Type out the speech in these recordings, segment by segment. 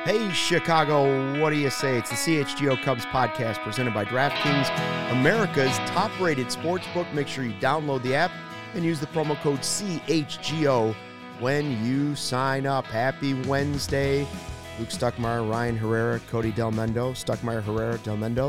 Hey, Chicago, what do you say? It's the CHGO Cubs podcast presented by DraftKings, America's top-rated sportsbook. Make sure you download the app and use the promo code CHGO when you sign up. Happy Wednesday. Luke Stuckmeyer, Ryan Herrera, Cody Del Mendo. Stuckmeyer, Herrera, Del Mendo.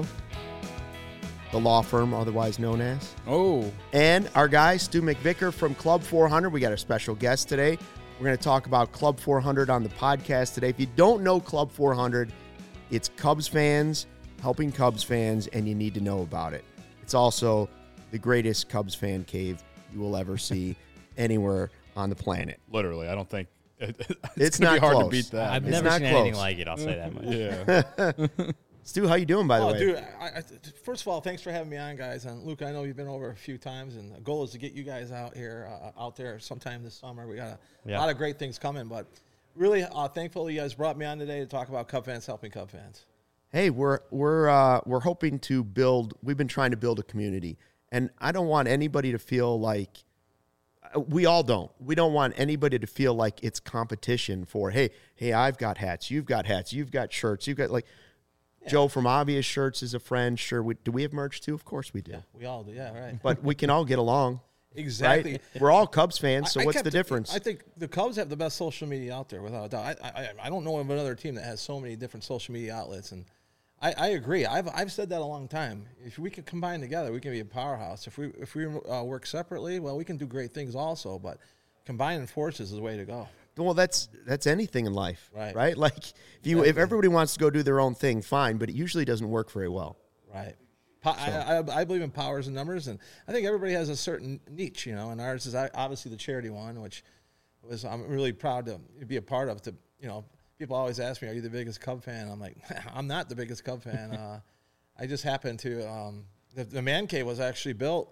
The law firm, otherwise known as. Oh. And our guy, Stu McVicker from Club 400. We got a special guest today. We're going to talk about Club 400 on the podcast today. If you don't know Club 400, it's Cubs fans helping Cubs fans, and you need to know about it. It's also the greatest Cubs fan cave you will ever see anywhere on the planet. Literally, I don't think it's going to not be hard close. to beat that. I've It's never not seen close. anything like it, I'll say that much. Yeah. Stu, how you doing, by the way? Oh, dude, first of all, thanks for having me on, guys. And Luke, I know you've been over a few times, and the goal is to get you guys out here, out there sometime this summer. We got a lot of great things coming, but really thankful you guys brought me on today to talk about Cub fans helping Cub fans. Hey, we're hoping to build. We've been trying to build a community, and I don't want anybody to feel like we all don't. We don't want anybody to feel like it's competition for. Hey, I've got hats. You've got hats. You've got shirts. You've got like. Joe from Obvious Shirts is a friend. Sure, do we have merch too? Of course we do. Yeah, we all do. Yeah, right. But we can all get along. Exactly. Right? We're all Cubs fans, so I what's kept the difference? I think the Cubs have the best social media out there, without a doubt. I don't know of another team that has so many different social media outlets, and I agree. I've said that a long time. If we can combine together, we can be a powerhouse. If we work separately, well, we can do great things also. But combining forces is the way to go. Well, that's anything in life, right? Like if everybody wants to go do their own thing, fine, but it usually doesn't work very well. Right. I believe in powers and numbers, and I think everybody has a certain niche, and ours is obviously the charity one, which I'm really proud to be a part of. People always ask me, "Are you the biggest Cub fan?" I'm like, I'm not the biggest Cub fan. I just happen to. The man cave was actually built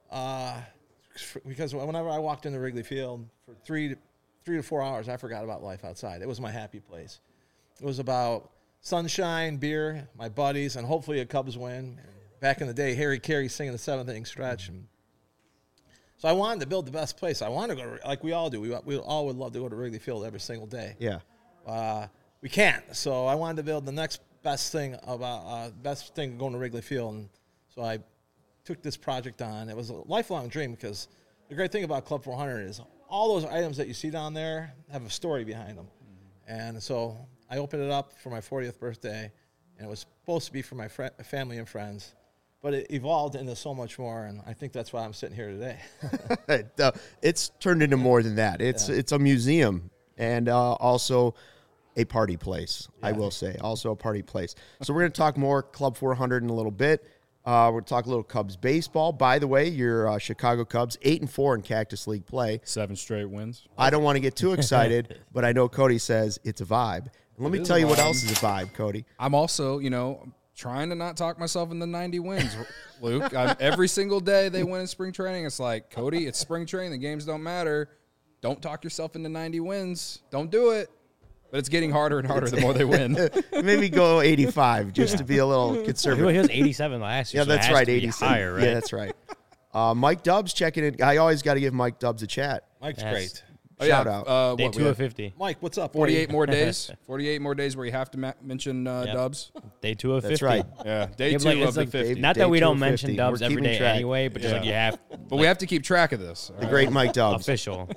because whenever I walked into Wrigley Field for 3 to 4 hours, I forgot about life outside. It was my happy place. It was about sunshine, beer, my buddies, and hopefully a Cubs win. Back in the day, Harry Carey singing the 7th inning stretch. And so I wanted to build the best place. I wanted to go to, like we all do. We all would love to go to Wrigley Field every single day. Yeah. We can't. So I wanted to build the next best thing going to Wrigley Field. And so I took this project on. It was a lifelong dream because the great thing about Club 400 is all those items that you see down there have a story behind them. And so I opened it up for my 40th birthday, and it was supposed to be for my family and friends. But it evolved into so much more, and I think that's why I'm sitting here today. It's turned into more than that. It's a museum and also a party place, I will say. Also a party place. So we're going to talk more Club 400 in a little bit. We're going to talk a little Cubs baseball. By the way, your Chicago Cubs, 8-4 in Cactus League play. 7 straight wins. I don't want to get too excited, but I know Cody says it's a vibe. And let me tell you what else is a vibe, Cody. I'm also, trying to not talk myself into 90 wins, Luke. Every single day they win in spring training. It's like, Cody, it's spring training. The games don't matter. Don't talk yourself into 90 wins. Don't do it. But it's getting harder and harder the more they win. Maybe go 85 just to be a little conservative. He was 87 last year. Yeah, so that's it has right, to be 87. higher, right? Yeah, that's right. Mike Dubs checking in. I always got to give Mike Dubs a chat. Mike's Yes. great. Shout out. Day 2 of 50. Mike, what's up? 48 more days. 48 more days where you have to mention Dubs. Day 2 of 50. That's right. Yeah, day Yeah, 2 but like, of it's the like 50. Not Day that we 2 don't of mention 50. Dubs We're every keeping day track. anyway, but just like you have But we have to keep track of this. The great Mike Dubs. official.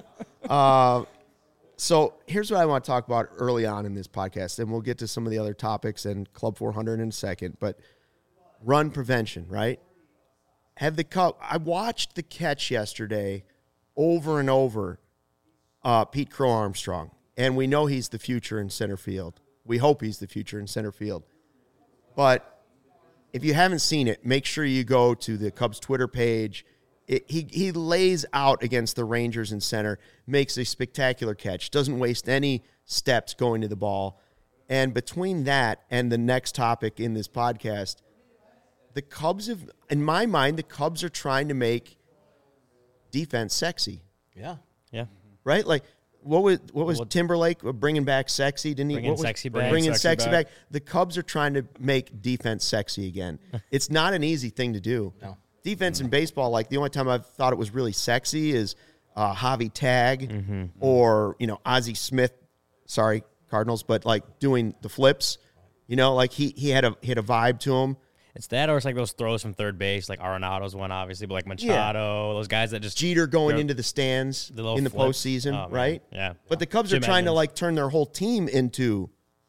So here's what I want to talk about early on in this podcast, and we'll get to some of the other topics and Club 400 in a second. But run prevention, right? I watched the catch yesterday over and over, Pete Crow Armstrong, and we know he's the future in center field. We hope he's the future in center field. But if you haven't seen it, make sure you go to the Cubs Twitter page. He lays out against the Rangers in center, makes a spectacular catch, doesn't waste any steps going to the ball. And between that and the next topic in this podcast, the Cubs in my mind, the Cubs are trying to make defense sexy, Yeah. Yeah. right? Like what was Timberlake bringing back sexy? Didn't he? Bringing sexy back. Bringing Sexy sexy back. back. The Cubs are trying to make defense sexy again. It's not an easy thing to do. No. Defense in baseball, like the only time I've thought it was really sexy is Javi Tag or Ozzie Smith. Sorry, Cardinals, but like doing the flips, like he had a vibe to him. It's that, or it's like those throws from third base, like Arenado's one, obviously, but like Machado, those guys that just Jeter going into the stands the little in the flip. postseason, Oh, man. right? Yeah. But the Cubs Jim are trying to Edmonds. like turn their whole team into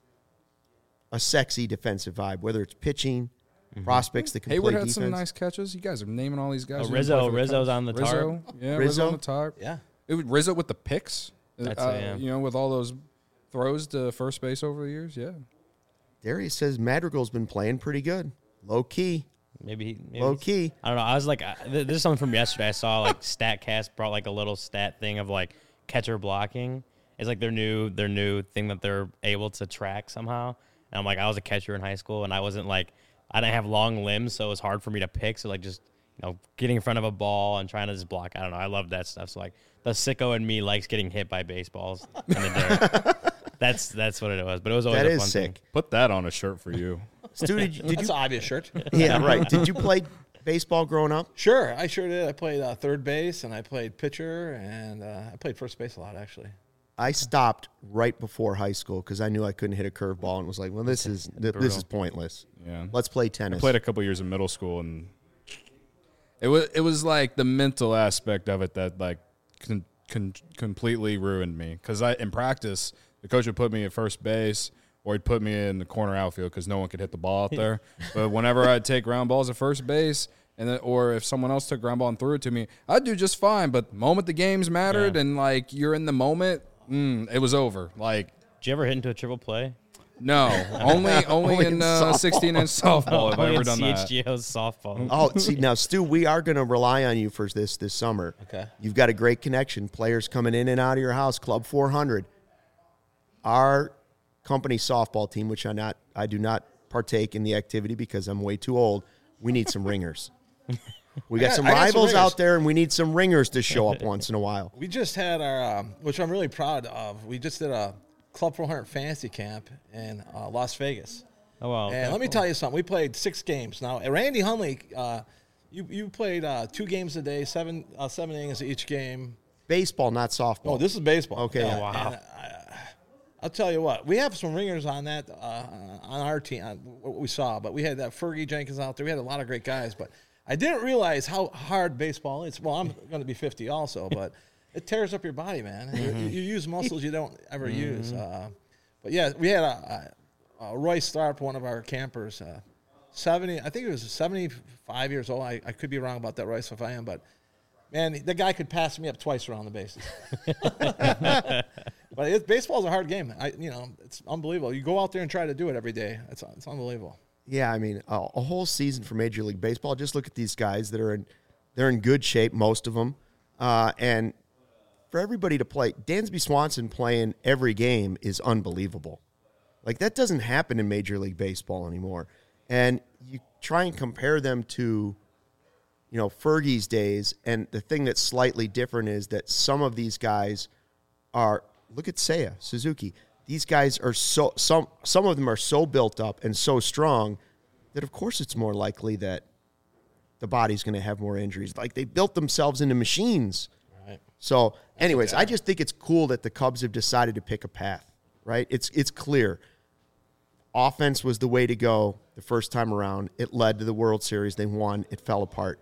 a sexy defensive vibe, whether it's pitching, prospects that can Hayward play had defense. some nice catches. You guys are naming all these guys. Oh, who didn't play for the Rizzo's Cubs. on the tarp. Rizzo, yeah, Rizzo? Rizzo on the tarp. Yeah. It was Rizzo with the picks. That's with all those throws to first base over the years. Yeah. Darius says Madrigal's been playing pretty good, low key. maybe Low key. I don't know. I was like, this is something from yesterday. I saw like StatCast brought like a little stat thing of like catcher blocking. It's like their new thing that they're able to track somehow. And I'm like, I was a catcher in high school, and I wasn't like, I didn't have long limbs, so it was hard for me to pick. So like just getting in front of a ball and trying to just block. I don't know. I love that stuff. So like the sicko in me likes getting hit by baseballs in the dirt. That's what it was. But it was always That a is fun sick. thing. Put that on a shirt for you. Stu, did That's you? an obvious shirt. Yeah, right. Did you play baseball growing up? Sure, I sure did. I played third base, and I played pitcher, and I played first base a lot, actually. I stopped right before high school because I knew I couldn't hit a curveball and was like, well, this is pointless. Yeah. Let's play tennis. I played a couple years in middle school, and it was like the mental aspect of it that like completely ruined me. Because in practice, the coach would put me at first base, or he'd put me in the corner outfield because no one could hit the ball out there. But whenever I'd take ground balls at first base, or if someone else took ground ball and threw it to me, I'd do just fine. But the moment the games mattered, and like you're in the moment, it was over. Like, Did you ever hit into a triple play? no, only in softball. 16-inch softball have I Only ever in done that. CHGO's softball. Oh, see, now, Stu, we are going to rely on you for this summer. Okay. You've got a great connection. Players coming in and out of your house, Club 400. Our company softball team, which I do not partake in the activity because I'm way too old, we need some ringers. We got some I got some rivals ringers. out there, and we need some ringers to show up once in a while. We just had our, which I'm really proud of. We just did a Club 400 fantasy camp in Las Vegas. Oh, wow. And let me tell you something. We played 6 games. Now, Randy Hundley, you played 2 games a day, 7 innings each game. Baseball, not softball. Oh, this is baseball. Okay. Yeah, Wow. and I'll tell you what. We have some ringers on that on our team. What we saw, but we had that Fergie Jenkins out there. We had a lot of great guys, but I didn't realize how hard baseball is. Well, I'm going to be 50 also, but it tears up your body, man. You use muscles you don't ever use. But yeah, we had Roy Starp, one of our campers, 70. I think he was 75 years old. I could be wrong about that, Royce, if I am, but man, the guy could pass me up twice around the bases. But baseball's a hard game. It's unbelievable. You go out there and try to do it every day. It's unbelievable. Yeah, I mean, a whole season for Major League Baseball. Just look at these guys that are they're in good shape, most of them, and for everybody to play, Dansby Swanson playing every game is unbelievable. Like that doesn't happen in Major League Baseball anymore. And you try and compare them to, Fergie's days, and the thing that's slightly different is that some of these guys are. Look at Seiya Suzuki. These guys are some of them are so built up and so strong that of course it's more likely that the body's going to have more injuries. Like they built themselves into machines. Right. So, anyways, I just think it's cool that the Cubs have decided to pick a path, right? It's clear. Offense was the way to go the first time around. It led to the World Series. They won. It fell apart.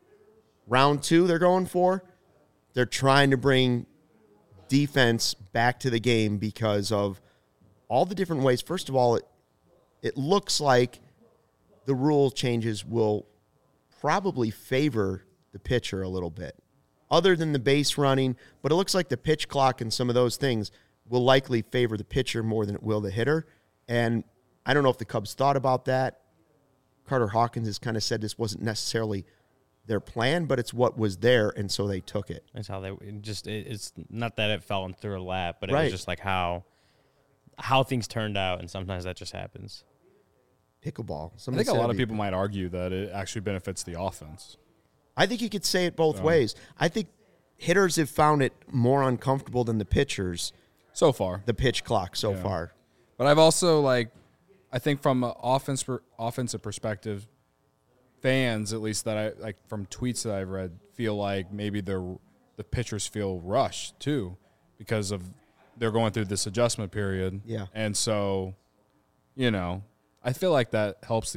Round 2 they're going for. They're trying to bring defense back to the game because of all the different ways. First of all, it looks like the rule changes will probably favor the pitcher a little bit, other than the base running. But it looks like the pitch clock and some of those things will likely favor the pitcher more than it will the hitter. And I don't know if the Cubs thought about that. Carter Hawkins has kind of said this wasn't necessarily their plan, but it's what was there, and so they took it. That's how it's not that it fell into their lap, but it Right. was just like how things turned out, and sometimes that just happens. Pickleball. I Somebody think a said lot it'd of be- people might argue that it actually benefits the offense. I think you could say it both ways. I think hitters have found it more uncomfortable than the pitchers, So far. the pitch clock so Yeah. far. But I've also, I think from an offensive perspective, fans, at least that from tweets that I've read, feel like maybe the pitchers feel rushed too because of they're going through this adjustment period. Yeah. And so, I feel like that helps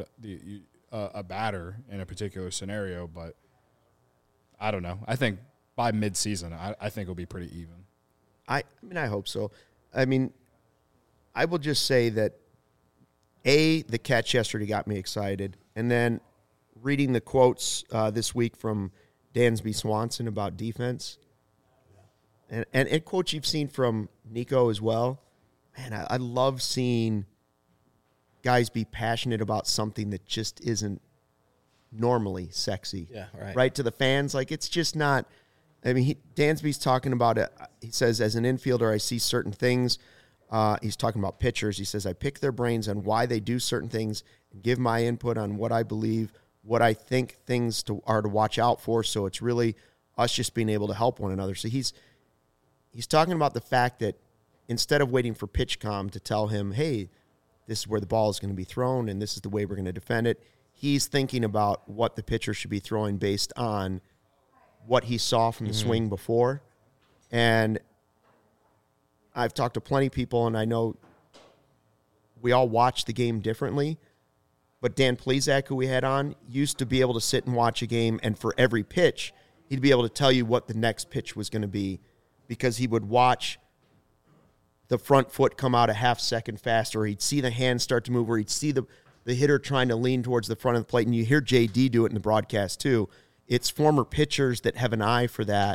a batter in a particular scenario, but I don't know. I think by mid-season, I think it'll be pretty even. I mean, I hope so. I mean, I will just say that, the catch yesterday got me excited. And then reading the quotes this week from Dansby Swanson about defense, and quotes you've seen from Nico as well. Man, I love seeing guys be passionate about something that just isn't normally sexy. Yeah, right. Right, to the fans. Like, it's just not – I mean, Dansby's talking about it. He says, as an infielder, I see certain things. He's talking about pitchers. He says, I pick their brains on why they do certain things and give my input on what I believe, what I think things are to watch out for. So it's really us just being able to help one another. So he's talking about the fact that instead of waiting for PitchCom to tell him, hey, this is where the ball is going to be thrown and this is the way we're going to defend it, he's thinking about what the pitcher should be throwing based on what he saw from the swing before. And I've talked to plenty of people, and I know we all watch the game differently, but Dan Plesac, who we had on, used to be able to sit and watch a game, and for every pitch, he'd be able to tell you what the next pitch was going to be because he would watch the front foot come out a half second faster, or he'd see the hand start to move, or he'd see the hitter trying to lean towards the front of the plate, and you hear JD do it in the broadcast too. It's former pitchers that have an eye for that.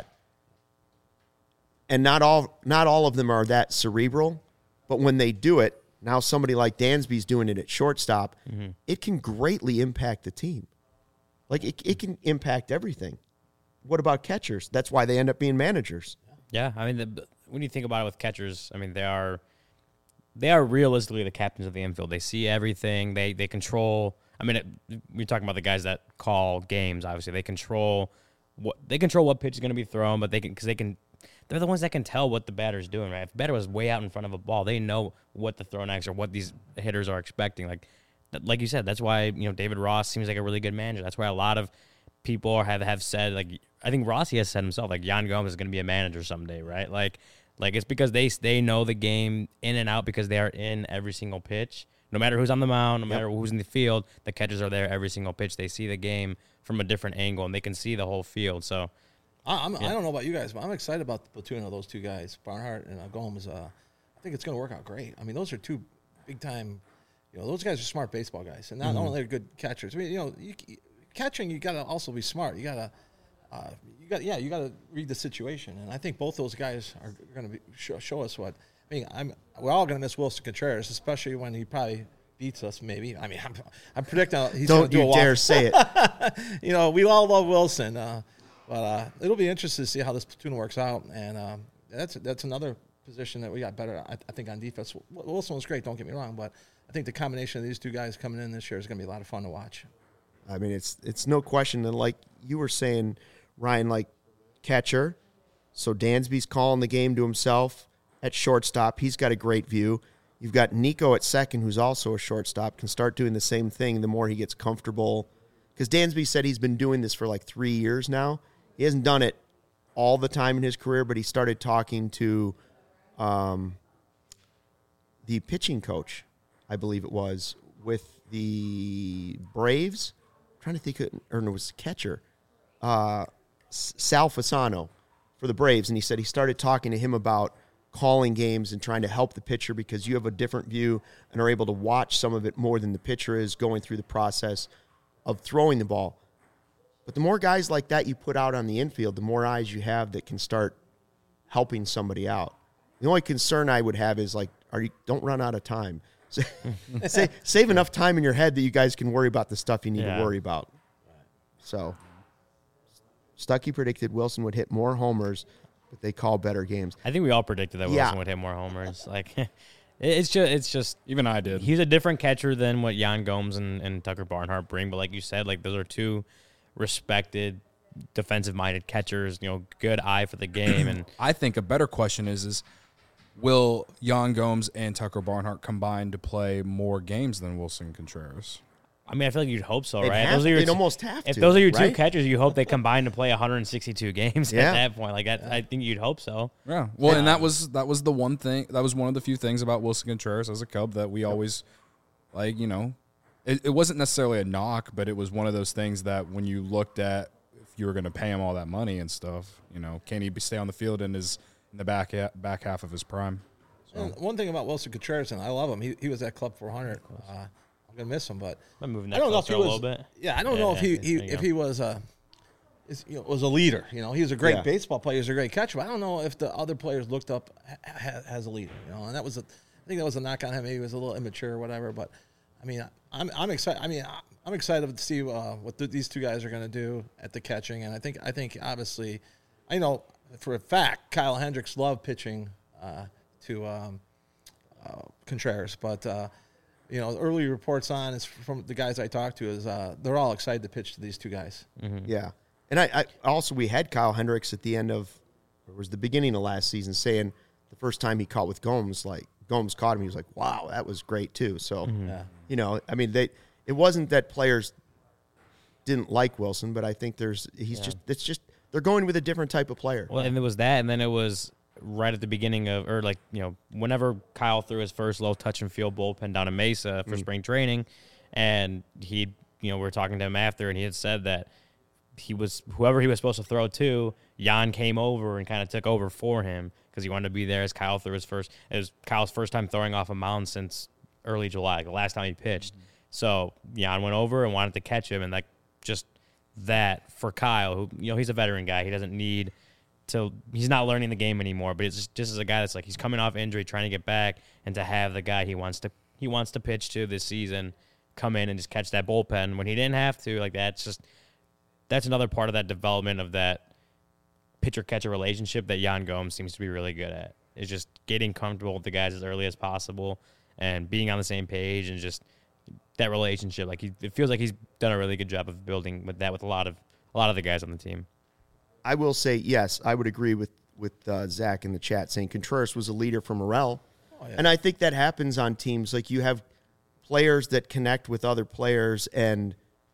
And not all of them are that cerebral, but when they do it, now somebody like Dansby's doing it at shortstop, it can greatly impact the team. Like, it can impact everything. What about catchers? That's why they end up being managers. Yeah, I mean, when you think about it with catchers, I mean, they are realistically the captains of the infield. They see everything. They control. I mean, we're talking about the guys that call games. Obviously, they control what pitch is going to be thrown, but they're the ones that can tell what the batter's doing. Right? If the batter was way out in front of a ball, they know what to throw next or what these hitters are expecting. Like you said, that's why David Ross seems like a really good manager. That's why a lot of people have said, like, I think Rossi has said himself, like, Yan Gomes is going to be a manager someday, right? Like it's because they know the game in and out because they are in every single pitch. No matter who's on the mound, no matter who's in the field, the catchers are there every single pitch. They see the game from a different angle, and they can see the whole field. So, I don't know about you guys, but I'm excited about the platoon of those two guys, Barnhart and Gomes. I think it's going to work out great. I mean, those are two big-time, those guys are smart baseball guys, and not only they're good catchers. I mean, catching, you got to also be smart. You got to read the situation, and I think both those guys are going to show us what. I mean, we're all going to miss Wilson Contreras, especially when he probably beats us. Maybe. I mean, I'm predicting he's going to do a walk. Don't you dare say it. We all love Wilson, but it'll be interesting to see how this platoon works out, and that's another position that we got better. I think on defense. Wilson was great. Don't get me wrong, but I think the combination of these two guys coming in this year is going to be a lot of fun to watch. I mean, it's no question. And like you were saying, Ryan, like catcher, so Dansby's calling the game to himself. At shortstop, he's got a great view. You've got Nico at second, who's also a shortstop, can start doing the same thing the more he gets comfortable. Because Dansby said he's been doing this for like 3 years now. He hasn't done it all the time in his career, but he started talking to the pitching coach, I believe it was, with the Braves. I'm trying to think, or no, it was the catcher, Sal Fasano for the Braves. And he said he started talking to him about calling games and trying to help the pitcher because you have a different view and are able to watch some of it more than the pitcher is going through the process of throwing the ball. But the more guys like that you put out on the infield, the more eyes you have that can start helping somebody out. The only concern I would have is don't run out of time. Save enough time in your head that you guys can worry about the stuff you need to worry about. So Stuckey predicted Wilson would hit more homers, but they call better games. I think we all predicted that Wilson would hit more homers. Like, it's just even I did. He's a different catcher than what Yan Gomes and Tucker Barnhart bring. But like you said, like those are two respected defensive-minded catchers. Good eye for the game. And I think a better question is will Yan Gomes and Tucker Barnhart combine to play more games than Wilson Contreras? I mean, I feel like you'd hope so, They'd right? have- Your they'd two- almost have If to, those are your two right? catchers, you hope they combine to play 162 games Yeah. at that point. Like, I think you'd hope so. Yeah. Well, and that was the one thing. That was one of the few things about Wilson Contreras as a Cub that we always, like, it wasn't necessarily a knock, but it was one of those things that when you looked at if you were going to pay him all that money and stuff, can he stay on the field in the back half of his prime? And one thing about Wilson Contreras, and I love him. He was at Club 400. I'm gonna miss him, but I'm moving I that don't know if closer he a was. little bit. Yeah, I don't know if there you if go. he was was a leader. He was a great Yeah. baseball player. He was a great catcher. But I don't know if the other players looked up as a leader. And that was I think that was a knock on him. Maybe he was a little immature or whatever. But I mean, I'm excited. I mean, I'm excited to see what these two guys are going to do at the catching. And I think obviously, I know for a fact Kyle Hendricks loved pitching to Contreras, but early reports on is from the guys I talked to is they're all excited to pitch to these two guys. Yeah. And I also, we had Kyle Hendricks at the end of, or it was the beginning of last season, saying the first time he caught with Gomes, like Gomes caught him, he was like, wow, that was great too. So, Yeah. I mean, it wasn't that players didn't like Wilson, but I think it's just, they're going with a different type of player. Well, and it was that, and then it was right at the beginning of, or whenever Kyle threw his first low touch and field bullpen down in Mesa for spring training, and we were talking to him after, and he had said that whoever he was supposed to throw to, Jan came over and kind of took over for him because he wanted to be there as Kyle threw his first. It was Kyle's first time throwing off a mound since early July, the last time he pitched. So Jan went over and wanted to catch him, and just that for Kyle, who he's a veteran guy, he doesn't need to. He's not learning the game anymore, but it's just as a guy that's like he's coming off injury, trying to get back, and to have the guy he wants to pitch to this season come in and just catch that bullpen when he didn't have to. Like that's another part of that development of that pitcher-catcher relationship that Jan Gomes seems to be really good at. Is just getting comfortable with the guys as early as possible and being on the same page, and just that relationship. Like it feels like he's done a really good job of building with that with a lot of the guys on the team. I will say, yes, I would agree with Zach in the chat saying Contreras was a leader for Morel. Oh, yeah. And I think that happens on teams. Like you have players that connect with other players, and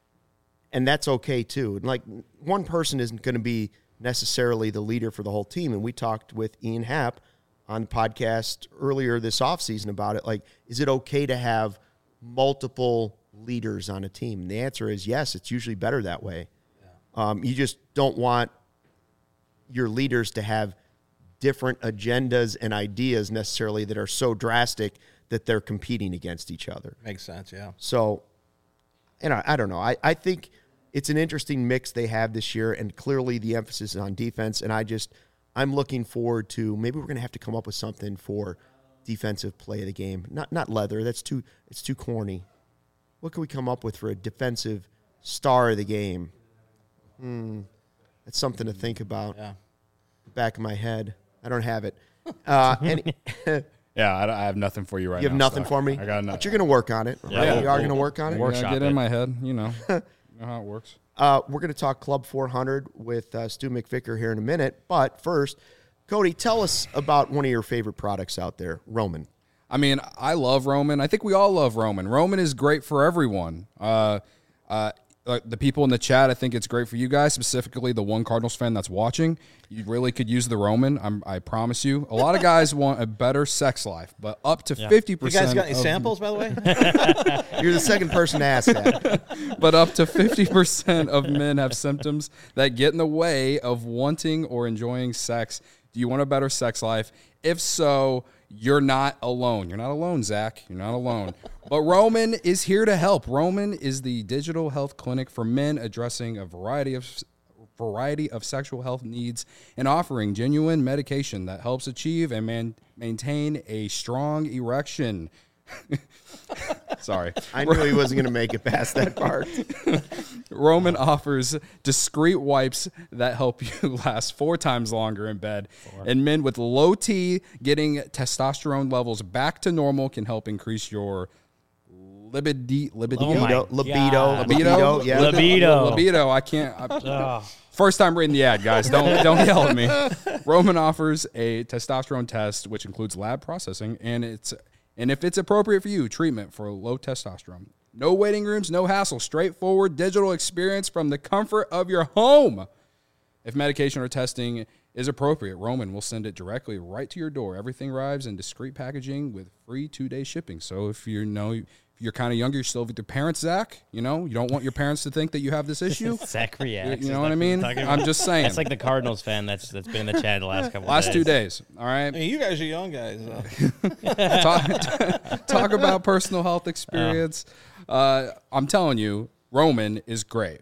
that's okay too. And like one person isn't going to be necessarily the leader for the whole team. And we talked with Ian Happ on the podcast earlier this offseason about it. Like, is it okay to have multiple leaders on a team? And the answer is yes, it's usually better that way. Yeah. You just don't want your leaders to have different agendas and ideas necessarily that are so drastic that they're competing against each other. Makes sense, yeah. So, I don't know. I think it's an interesting mix they have this year, and clearly the emphasis is on defense. And I'm looking forward to, maybe we're going to have to come up with something for defensive play of the game. Not leather. It's too corny. What can we come up with for a defensive star of the game? That's something to think about. Yeah. Back of my head. I don't have it. Yeah, I have nothing for you right now. You have nothing Stock. for me? I got nothing. But you're going to work on it. Yeah. Right? Yeah. You are going to work on it? Workshop Get it. in my head, you know how it works. We're going to talk Club 400 with Stu McVicker here in a minute. But first, Cody, tell us about one of your favorite products out there, Roman. I mean, I love Roman. I think we all love Roman. Roman is great for everyone. The people in the chat, I think it's great for you guys, specifically the one Cardinals fan that's watching. You really could use the Roman. I promise you. A lot of guys want a better sex life, but up to 50%. You guys got any samples, by the way? You're the second person to ask that. But up to 50% of men have symptoms that get in the way of wanting or enjoying sex. Do you want a better sex life? If so, you're not alone. You're not alone, Zach. You're not alone. But Roman is here to help. Roman is the digital health clinic for men addressing a variety of sexual health needs and offering genuine medication that helps achieve and maintain a strong erection. Sorry. I knew he wasn't going to make it past that part. Roman offers discreet wipes that help you last 4 times longer in bed. And men with low T getting testosterone levels back to normal can help increase your libido. Oh my God. Yeah. Libido. I can't. First time reading the ad, guys. Don't yell at me. Roman offers a testosterone test, which includes lab processing, and if it's appropriate for you, treatment for low testosterone. No waiting rooms, no hassle. Straightforward digital experience from the comfort of your home. If medication or testing is appropriate, Roman will send it directly right to your door. Everything arrives in discreet packaging with free 2-day shipping. So if you're kind of younger, you're still with your parents, Zach, you don't want your parents to think that you have this issue. Zach reacts. You know what I mean? I'm just saying. That's like the Cardinals fan that's been in the chat the last couple Last of days. 2 days. All right. I mean, you guys are young guys. Talk about personal health experience. I'm telling you, Roman is great.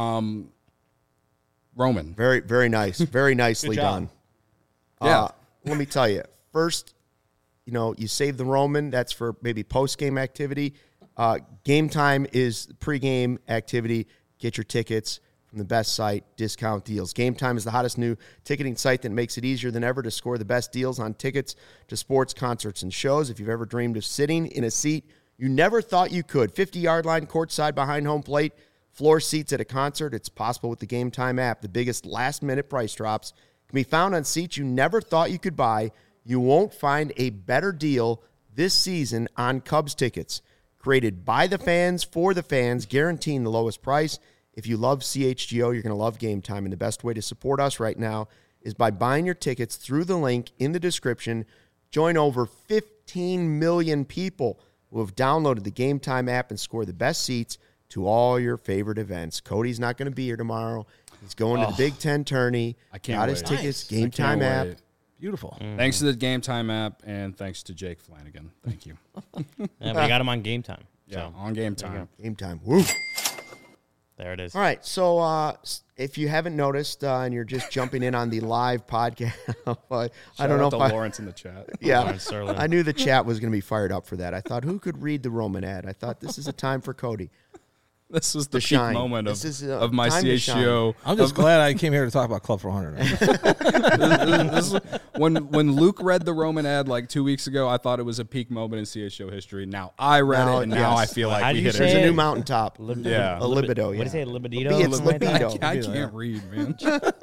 Roman. Very, very nice. Very nicely Good job. done. Yeah. Let me tell you. First, you save the Roman. That's for maybe post-game activity. Game time is pre-game activity. Get your tickets from the best site, discount deals. Game Time is the hottest new ticketing site that makes it easier than ever to score the best deals on tickets to sports, concerts, and shows. If you've ever dreamed of sitting in a seat you never thought you could, 50-yard line, courtside behind home plate, floor seats at a concert, it's possible with the Game Time app. The biggest last-minute price drops can be found on seats you never thought you could buy. You won't find a better deal this season on Cubs tickets. Created by the fans, for the fans, guaranteeing the lowest price. If you love CHGO, you're going to love Game Time, and the best way to support us right now is by buying your tickets through the link in the description. Join over 15 million people who have downloaded the Game Time app and score the best seats to all your favorite events. Cody's not going to be here tomorrow. He's going to the Big Ten tourney. I can't Got his wait. tickets, Nice. Game Time app. Beautiful. Thanks to the Game Time app, and thanks to Jake Flanagan. Thank you. Yeah, we got him on Game Time. Yeah, So, on Game Time. Game Time. Woo. there it is. All right, so if you haven't noticed and you're just jumping in on the live podcast, I don't know if to I, Lawrence in the chat. yeah, Lawrence Sterling. I knew the chat was going to be fired up for that. I thought, who could read the Roman ad? I thought this is a time for Cody. This was the To peak shine. moment This is, of my time to shine. CHGO. I'm just glad I came here to talk about Club 400. This is- when Luke read the Roman ad like 2 weeks ago, I thought it was a peak moment in CHGO history. Now I read Now, it, and now yes. I feel How like do we you hit say There's it. a it? new mountaintop. Yeah. A libido, What is yeah. it? Libido? It's Something like that? libido. I can't read, man.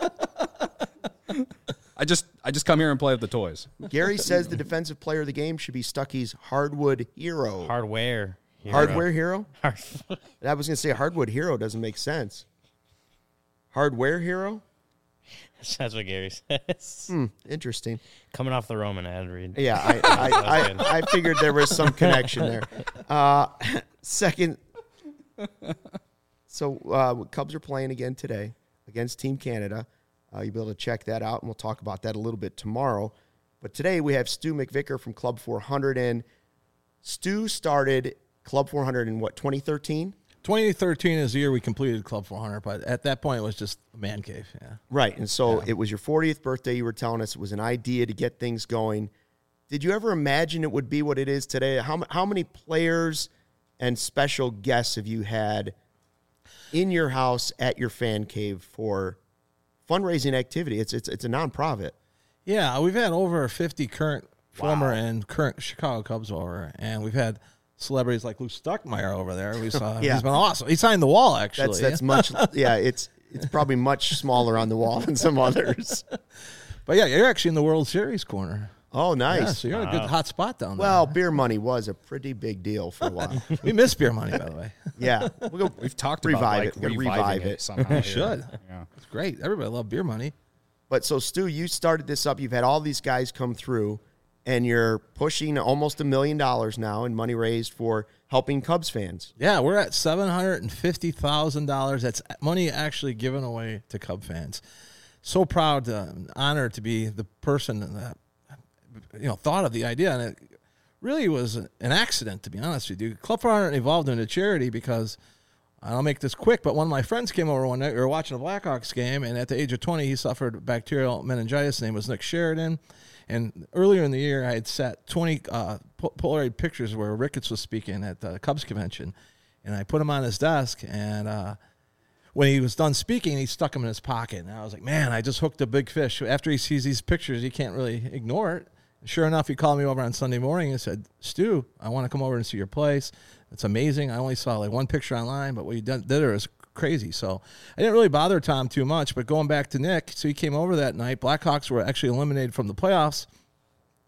I just come here and play with the toys. Gary says the defensive player of the game should be Stuckey's hardwood hero. Hardware. Hero. Hardware hero? Hard- I was going to say hardwood hero doesn't make sense. Hardware hero? That's what Gary says. Interesting. Coming off the Roman ad read. Yeah, good. I figured there was some connection there. Second, so Cubs are playing again today against Team Canada. You'll be able to check that out, and we'll talk about that a little bit tomorrow. But today we have Stu McVicker from Club 400, and Stu started Club 400 in what, 2013? 2013 is the year we completed Club 400, but at that point it was just a man cave. Yeah. Right, and so it was your 40th birthday. You were telling us it was an idea to get things going. Did you ever imagine it would be what it is today? How many players and special guests have you had in your house at your fan cave for fundraising activity? It's a nonprofit. Yeah, we've had over 50 current, former, and current Chicago Cubs over, and we've had celebrities like Lou Stuckmeyer over there. We saw Yeah. he's been awesome. He signed the wall actually. That's much. Yeah, it's probably much smaller on the wall than some others. But yeah, you're actually in the World Series corner. Oh, nice. Yeah, so you're in a good hot spot down there. Well, beer money was a pretty big deal for a while. we miss beer money, by the way. Yeah, we'll go. We've talked Revive about like it. We're gonna reviving revive it it. somehow. here. Should. Yeah. It's great. Everybody love beer money. But so, Stu, you started this up. You've had all these guys come through, and you're pushing almost $1 million now in money raised for helping Cubs fans. Yeah, we're at $750,000. That's money actually given away to Cub fans. So proud, honored to be the person that thought of the idea, and it really was an accident, to be honest with you. Club 400 evolved into charity because I'll make this quick, but one of my friends came over one night. We were watching a Blackhawks game, and at the age of 20, he suffered bacterial meningitis. His name was Nick Sheridan. And earlier in the year, I had set 20 Polaroid pictures where Ricketts was speaking at the Cubs convention. And I put them on his desk, and when he was done speaking, he stuck them in his pocket. And I was like, man, I just hooked a big fish. After he sees these pictures, he can't really ignore it. And sure enough, he called me over on Sunday morning and said, Stu, I want to come over and see your place. It's amazing. I only saw like one picture online, but what you did there is crazy. So I didn't really bother Tom too much, but going back to Nick, so he came over that night. Blackhawks were actually eliminated from the playoffs.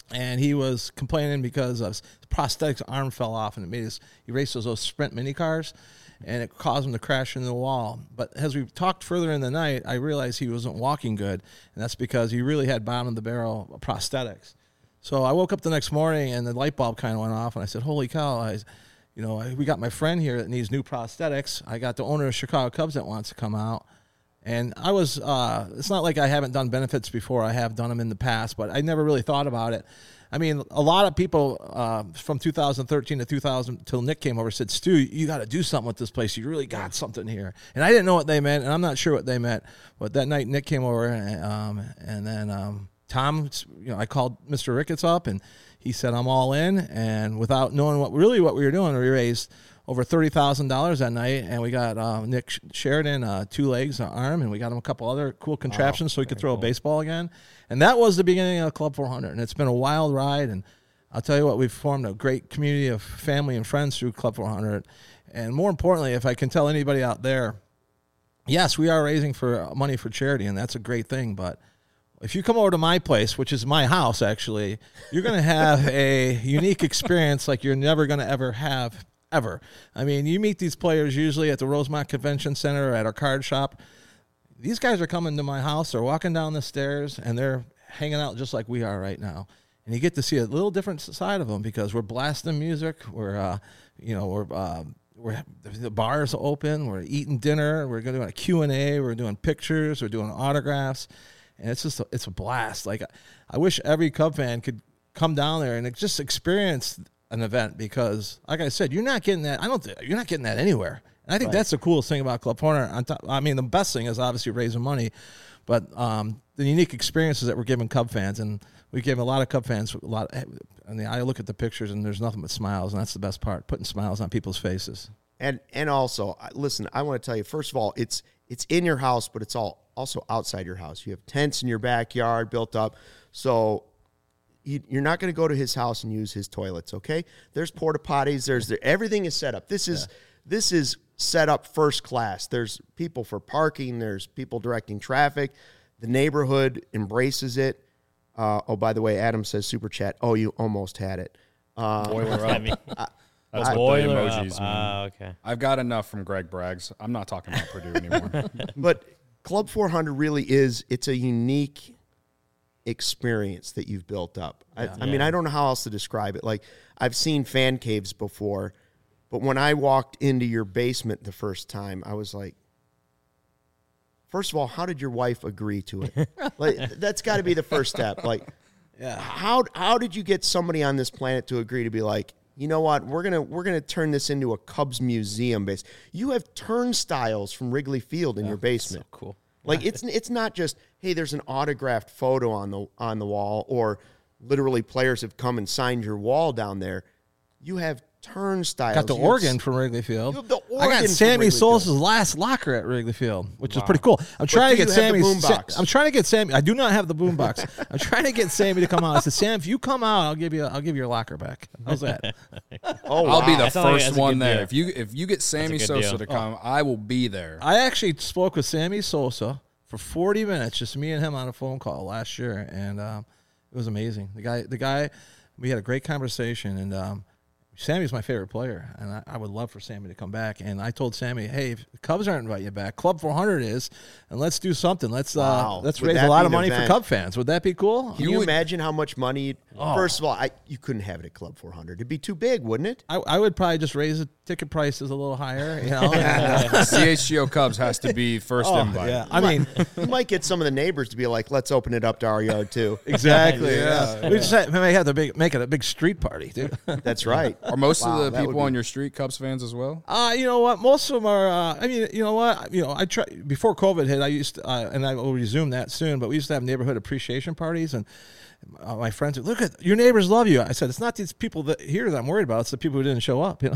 and he was complaining because his prosthetics arm fell off, and he raced those sprint mini cars, and it caused him to crash into the wall. But as we talked further in the night, I realized he wasn't walking good, and that's because he really had bottom of the barrel prosthetics. So I woke up the next morning, and the light bulb kind of went off, and I said, "Holy cow! We got my friend here that needs new prosthetics. I got the owner of Chicago Cubs that wants to come out." And I was, it's not like I haven't done benefits before. I have done them in the past, but I never really thought about it. I mean, a lot of people from 2013 to 2000 till Nick came over said, "Stu, you got to do something with this place. You really got something here." And I didn't know what they meant, and I'm not sure what they meant. But that night, Nick came over, and then Tom, I called Mr. Ricketts up, and he said, "I'm all in." And without knowing what we were doing, we raised over $30,000 that night, and we got Nick Sheridan 2 legs, an arm, and we got him a couple other cool contraptions so he could throw a baseball again. And that was the beginning of Club 400, and it's been a wild ride. And I'll tell you what, we've formed a great community of family and friends through Club 400. And more importantly, if I can tell anybody out there, yes, we are raising for money for charity, and that's a great thing. But if you come over to my place, which is my house, actually, you're going to have a unique experience like you're never going to ever have. Ever. I mean, you meet these players usually at the Rosemont Convention Center or at our card shop. These guys are coming to my house. They're walking down the stairs, and they're hanging out just like we are right now. And you get to see a little different side of them because we're blasting music. The bar's open. We're eating dinner. We're going to do a Q&A. We're doing pictures. We're doing autographs. And it's a blast. Like, I wish every Cub fan could come down there and just experience an event because, like I said, you're not getting that. You're not getting that anywhere. And I think that's the coolest thing about Club 400. The best thing is obviously raising money, but the unique experiences that we're giving Cub fans, and we gave a lot of Cub fans a lot. And I look at the pictures, and there's nothing but smiles, and that's the best part, putting smiles on people's faces. And also, listen, I want to tell you, first of all, it's in your house, but it's also outside your house. You have tents in your backyard built up, so you're not going to go to his house and use his toilets, okay? There's porta potties. Everything is set up. This is set up first class. There's people for parking. There's people directing traffic. The neighborhood embraces it. By the way, Adam says super chat. Oh, you almost had it. Boiler up. That's what boiler the emojis mean. Okay. I've got enough from Greg Braggs. I'm not talking about Purdue anymore. But Club 400 really is. It's a unique experience that you've built up. I mean, I don't know how else to describe it. Like, I've seen fan caves before, but when I walked into your basement the first time, I was like, first of all, how did your wife agree to it? Like, that's got to be the first step. Like, how did you get somebody on this planet to agree to be like, you know what, we're gonna turn this into a Cubs museum base. You have turnstiles from Wrigley Field in your basement. So cool. Like, it's not just, hey, there's an autographed photo on the wall, or literally players have come and signed your wall down there. You have turnstiles. Got the organ from Wrigley Field. You have the I organ got from Sammy Wrigley Sosa's Field. last locker at Wrigley Field, which is pretty cool. I'm trying to do get you have the Sammy. boombox? I'm trying to get Sammy. I do not have the boombox. I'm trying to get Sammy to come out. I said, Sam, if you come out, I'll give you your locker back. How's that? Oh, I'll be the That sounds like first that's a one good there. deal. If you get Sammy good Sosa deal. to come, I will be there. I actually spoke with Sammy Sosa for 40 minutes, just me and him on a phone call last year, and it was amazing. The guy, we had a great conversation, and Sammy's my favorite player, and I would love for Sammy to come back. And I told Sammy, hey, if the Cubs aren't inviting you back, Club 400 is, and let's do something. Let's Wow. raise Would a that lot be of an money for event? Cub fans. Would that be cool? Can you imagine how much money? First of all, you couldn't have it at Club 400. It'd be too big, wouldn't it? I would probably just raise the ticket prices a little higher. You know? CHGO Cubs has to be first invite. Yeah, I mean, You might get some of the neighbors to be like, let's open it up to our yard too. exactly. Yeah, We just may have to make it a big street party, dude. That's right. Are most Wow, of the that would people be- on your street Cubs fans as well? You know what? Most of them are. You know what? I try before COVID hit. I used to, and I will resume that soon. But we used to have neighborhood appreciation parties, and my friends would look at your neighbors love you. I said it's not these people that here that I'm worried about. It's the people who didn't show up. You know.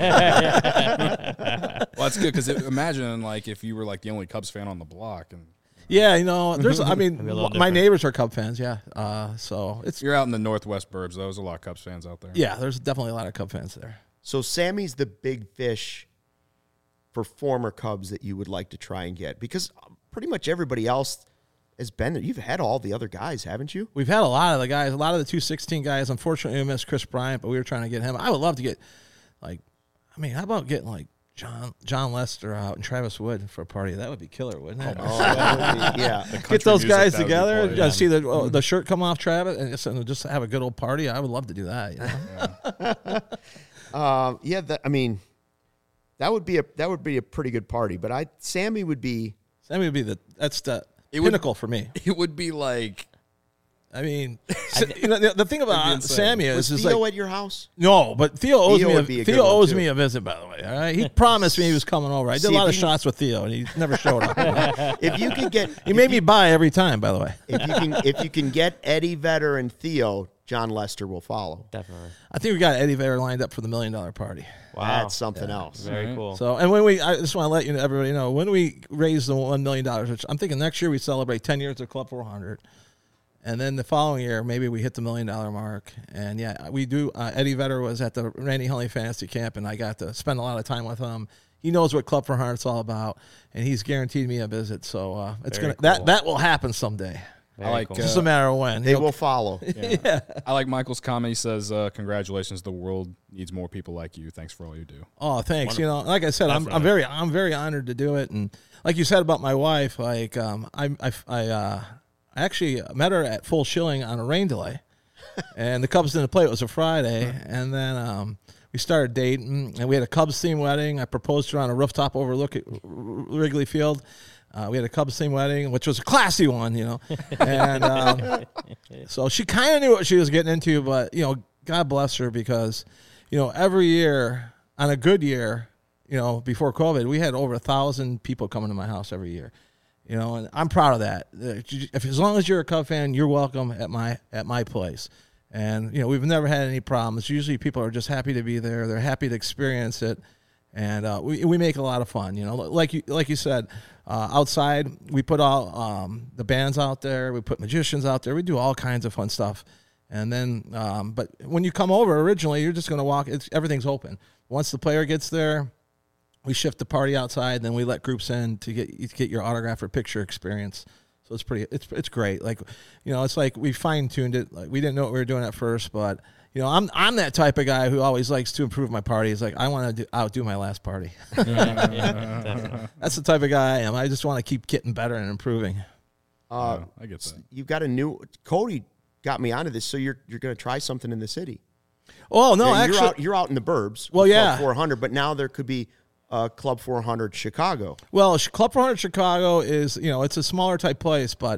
Well, that's good because imagine like if you were like the only Cubs fan on the block and Yeah, you know. There's. I mean, Maybe a little my different. neighbors are Cub fans. Yeah. So it's. you're out in the Northwest burbs. There's a lot of Cubs fans out there. Yeah, there's definitely a lot of Cub fans there. So Sammy's the big fish for former Cubs that you would like to try and get, because pretty much everybody else has been there. You've had all the other guys, haven't you? We've had a lot of the guys, a lot of the 216 guys. Unfortunately, we missed Chris Bryant, but we were trying to get him. I would love to get, how about getting like John Lester out and Travis Wood for a party? That would be killer, wouldn't it? Oh, that would be, yeah. Get those guys that would be together. cool, yeah. See the shirt come off Travis and just have a good old party. I would love to do that. That would be a pretty good party. But Sammy would be the pinnacle for me. It would be like, I mean, the thing about Sammy was is Theo like, at your house? no, but Theo owes Theo would be a good Theo one, owes too. me a visit. By the way, all right. He promised me he was coming over. I did See, a lot if of you- shots with Theo, and he never showed up. If you could get, He made me buy every time. By the way, if you can get Eddie Vedder and Theo, John Lester will follow. Definitely. I think we got Eddie Vedder lined up for the $1 Million party. Wow. That's something else. Very cool. So, and I just want to let everybody know, when we raise the $1 million, which I'm thinking next year we celebrate 10 years of Club 400, and then the following year maybe we hit the $1 million mark. And yeah, we do. Eddie Vedder was at the Randy Huntley Fantasy Camp, and I got to spend a lot of time with him. He knows what Club 400 is all about, and he's guaranteed me a visit. So it's Very gonna cool. that will happen someday. Very I like cool. Just a matter of when. They will follow. I like Michael's comment. He says, "Congratulations, the world needs more people like you. Thanks for all you do." Oh, thanks. Like I said, I'm very honored to do it, and like you said about my wife, like I actually met her at Full Shilling on a rain delay, and the Cubs didn't play. It was a Friday, and then we started dating, and we had a Cubs themed wedding. I proposed to her on a rooftop overlooking Wrigley Field. We had a Cubs themed wedding, which was a classy one, and so she kind of knew what she was getting into, but God bless her, because every year on a good year, before COVID, we had over 1,000 people coming to my house every year. And I'm proud of that. As long as you're a Cub fan, you're welcome at my place. And we've never had any problems. Usually, people are just happy to be there. They're happy to experience it, and we make a lot of fun. Like you said, outside we put all the bands out there. We put magicians out there. We do all kinds of fun stuff. And then, but when you come over, originally you're just going to walk. Everything's open. Once the player gets there, we shift the party outside, then we let groups in to get your autograph or picture experience. So it's great. Like, it's like we fine tuned it. Like, we didn't know what we were doing at first, but I'm that type of guy who always likes to improve my party. It's like, I want to outdo my last party. Definitely. That's the type of guy I am. I just want to keep getting better and improving. I get that. You've got Cody got me onto this, so you're going to try something in the city. Oh no, Yeah, actually, you're out in the burbs. Well, with yeah. Club 400, but now there could be Club 400 Chicago. well, Club 400 Chicago is it's a smaller type place, but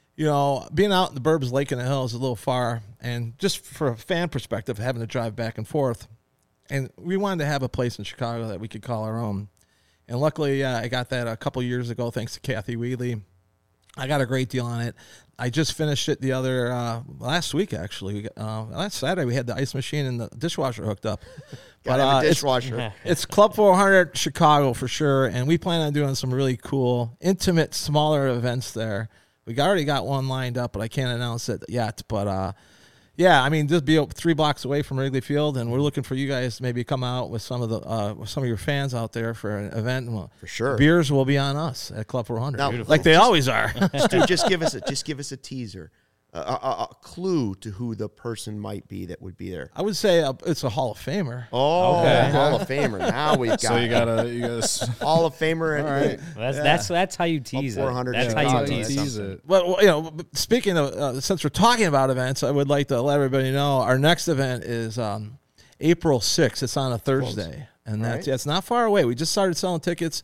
being out in the burbs, Lake in the Hills, is a little far, and just for a fan perspective, having to drive back and forth, and we wanted to have a place in Chicago that we could call our own, and luckily, I got that a couple years ago thanks to Kathy Wheatley. I got a great deal on it. I just finished it the other last week, actually. Last Saturday, we had the ice machine and the dishwasher hooked up. Got to have a dishwasher. It's Club 400 Chicago for sure, and we plan on doing some really cool, intimate, smaller events there. We already got one lined up, but I can't announce it yet. But yeah, I mean, just be 3 blocks away from Wrigley Field, and we're looking for you guys to maybe come out with some of your fans out there for an event. Well, For sure. beers will be on us at Club 400, Now, like they always are. Stu, just give us a teaser, a clue to who the person might be that would be there. I would say it's a Hall of Famer. Oh, Okay. Hall of Famer. Now we've got So you gotta Hall of Famer. And, All right. Well, that's how you tease it. 400 That's how Chicago. you tease something. it. Well, speaking of, since we're talking about events, I would like to let everybody know our next event is April 6th. It's on a Thursday, and right. it's not far away. We just started selling tickets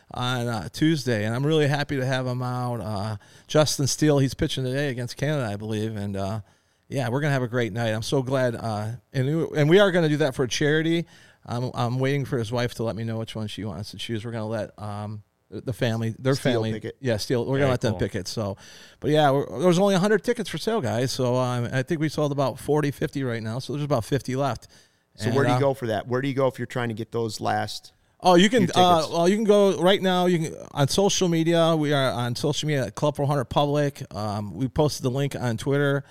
on Tuesday, and I'm really happy to have him out. Justin Steele, he's pitching today against Canada, I believe, and yeah, we're gonna have a great night. I'm so glad, and we are gonna do that for a charity. I'm waiting for his wife to let me know which one she wants to choose. We're gonna let the family, their Steele family, pick it. yeah, Steele. We're Very gonna let them cool. pick it. So, but yeah, there was only 100 tickets for sale, guys. So I think we sold about 40, 50 right now. So there's about 50 left. So And, where do you go for that? Where do you go if you're trying to get those last? Oh, you can. Few tickets. Well, you can go right now. You can on social media. We are on social media at Club 400 Public. We posted the link on Twitter.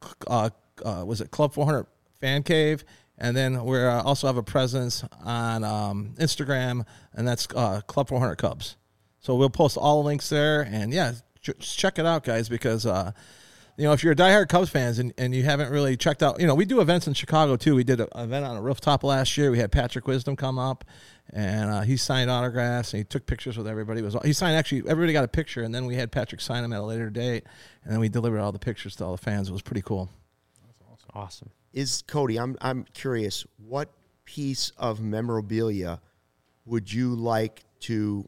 Was it Club 400 Fan Cave? And then we also have a presence on Instagram, and that's Club 400 Cubs. So we'll post all the links there. And yeah, check it out, guys, because if you're a diehard Cubs fans and you haven't really checked out, we do events in Chicago too. We did an event on a rooftop last year. We had Patrick Wisdom come up, and he signed autographs and he took pictures with everybody. Everybody got a picture, and then we had Patrick sign them at a later date, and then we delivered all the pictures to all the fans. It was pretty cool. That's awesome. Is Cody? I'm curious. What piece of memorabilia would you like to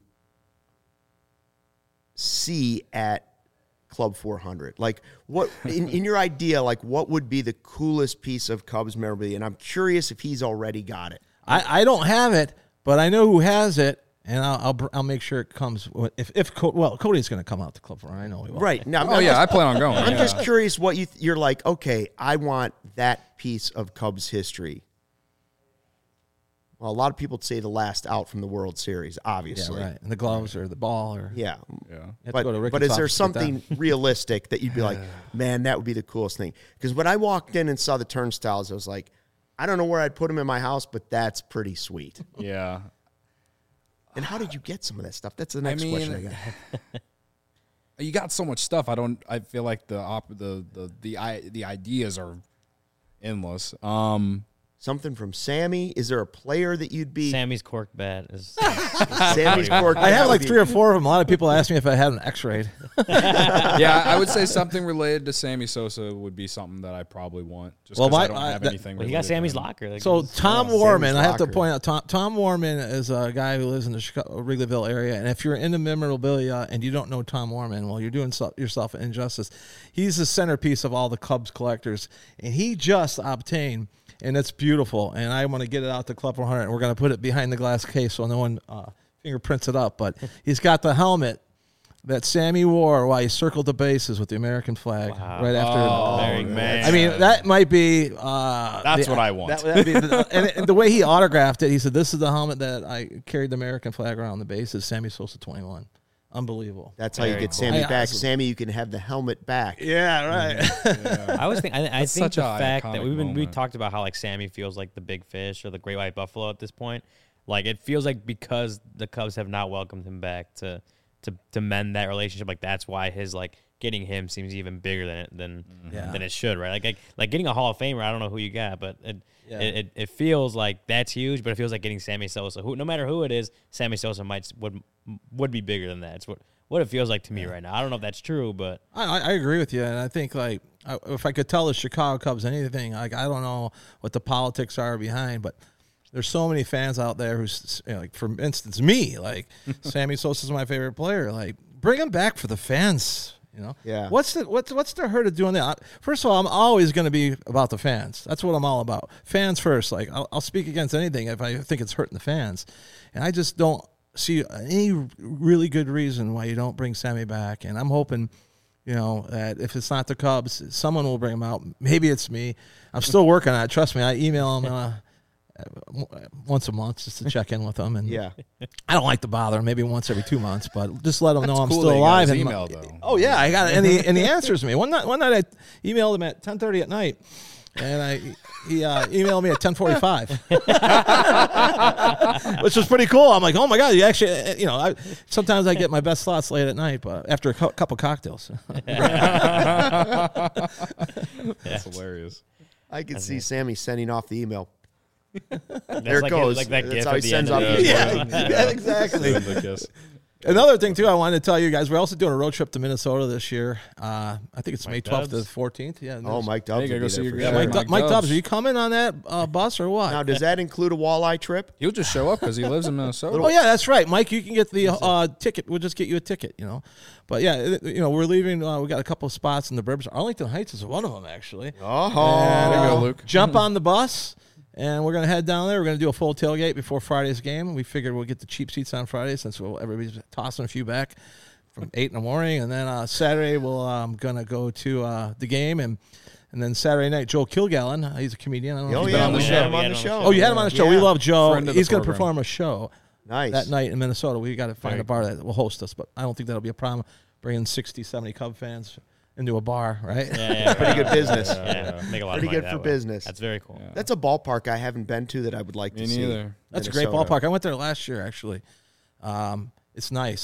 see at Club 400? Like, what in your idea? Like, what would be the coolest piece of Cubs memorabilia? And I'm curious if he's already got it. I don't have it, but I know who has it, and I'll make sure it comes. Cody's going to come out to Club 400. I know he will. Right now. I plan on going. I'm just curious what you're like. Okay, I want that piece of Cubs history. Well, a lot of people say the last out from the World Series, obviously. Yeah, right. And the gloves or the ball or yeah. But is there something realistic that you'd be like, man, that would be the coolest thing? Because when I walked in and saw the turnstiles, I was like, I don't know where I'd put them in my house, but that's pretty sweet. Yeah. And how did you get some of that stuff? That's the next question I got. You got so much stuff. I feel like the ideas are endless. Something from Sammy. Is there a player that you'd be? Sammy's cork bat is. Sammy's cork. I have like 3 or 4 of them. A lot of people ask me if I had an X-ray. Yeah, I would say something related to Sammy Sosa would be something that I probably want. Just because I don't have anything. Well, he got Sammy's locker. Like, so Tom Warman, Sammy's I have to locker. point out, Tom Warman is a guy who lives in the Chicago, Wrigleyville area. And if you're into memorabilia and you don't know Tom Warman, well, you're doing yourself an injustice. He's the centerpiece of all the Cubs collectors. And he just obtained, and it's beautiful. And I want to get it out to Club 400, and we're going to put it behind the glass case so no one fingerprints it up. But he's got the helmet that Sammy wore while he circled the bases with the American flag right after. man. I mean, that might be. That's what I want. That'd be and the way he autographed it, he said, "This is the helmet that I carried the American flag around the bases." Sammy Sosa 21. Unbelievable. That's how you get Sammy back. Sammy, you can have the helmet back. Yeah, right. I always think I think such the a fact that we iconic talked about how like Sammy feels like the big fish or the great white buffalo at this point. Like it feels like because the Cubs have not welcomed him back to mend that relationship, like that's why his like getting him seems even bigger than it should, right? Like getting a Hall of Famer. I don't know who you got, but it feels like that's huge. But it feels like getting Sammy Sosa. Who, no matter who it is, Sammy Sosa would be bigger than that. It's what it feels like to me right now. I don't know if that's true, but I agree with you, and I think like if I could tell the Chicago Cubs anything, like I don't know what the politics are behind, but there's so many fans out there who's like, for instance, me, like Sammy Sosa's my favorite player. Like, bring him back for the fans. Yeah. What's the hurt of doing that? First of all, I'm always going to be about the fans. That's what I'm all about. Fans first. Like I'll speak against anything if I think it's hurting the fans, and I just don't see any really good reason why you don't bring Sammy back. And I'm hoping, that if it's not the Cubs, someone will bring him out. Maybe it's me. I'm still working on it. Trust me. I email him once a month just to check in with them. And I don't like to bother him. Maybe once every 2 months, but just let them know I'm still alive. And email though. Oh yeah, I got it. And he answers me. One night I emailed him at 10:30 at night. And he emailed me at 10:45, which was pretty cool. I'm like, oh my god, you actually, sometimes I get my best thoughts late at night, but after a couple cocktails. That's hilarious. I could see Sammy sending off the email. that's There it like goes. Like that That's gif how he at the sends end off of the the email. Exactly. Another thing too, I wanted to tell you guys, we're also doing a road trip to Minnesota this year. I think it's May 12th to the 14th. Yeah. Oh, Mike Dubs Hey, will go be see there your for guy. sure. Mike Mike Dubs. Dubs, are you coming on that bus or what? Now, does that include a walleye trip? He'll just show up because he lives in Minnesota. Oh yeah, that's right, Mike. You can get the ticket. We'll just get you a ticket, But yeah, we're leaving. We got a couple of spots in the burbs. Arlington Heights is one of them, actually. Oh, There you go, Luke. Jump on the bus, and we're gonna head down there. We're gonna do a full tailgate before Friday's game. We figured we'll get the cheap seats on Friday since everybody's tossing a few back from 8 in the morning, and then Saturday we'll gonna go to the game, and then Saturday night Joe Kilgallen, he's a comedian. I don't know if Oh you've been yeah, on the we show. had him on the show. Oh, you had him on the show. Yeah. We love Joe. Friend of the He's going to program. perform a show Nice. that night in Minnesota. We got to find Very a bar that will host us, but I don't think that'll be a problem. Bringing 60, 70 Cub fans into a bar, right? Yeah, Pretty good business. Yeah, make a lot Pretty of money good that for way. business. That's very cool. That's a ballpark I haven't been to that I would like Me to see. neither. That's a great Minnesota. ballpark. I went there last year, actually. It's nice. It's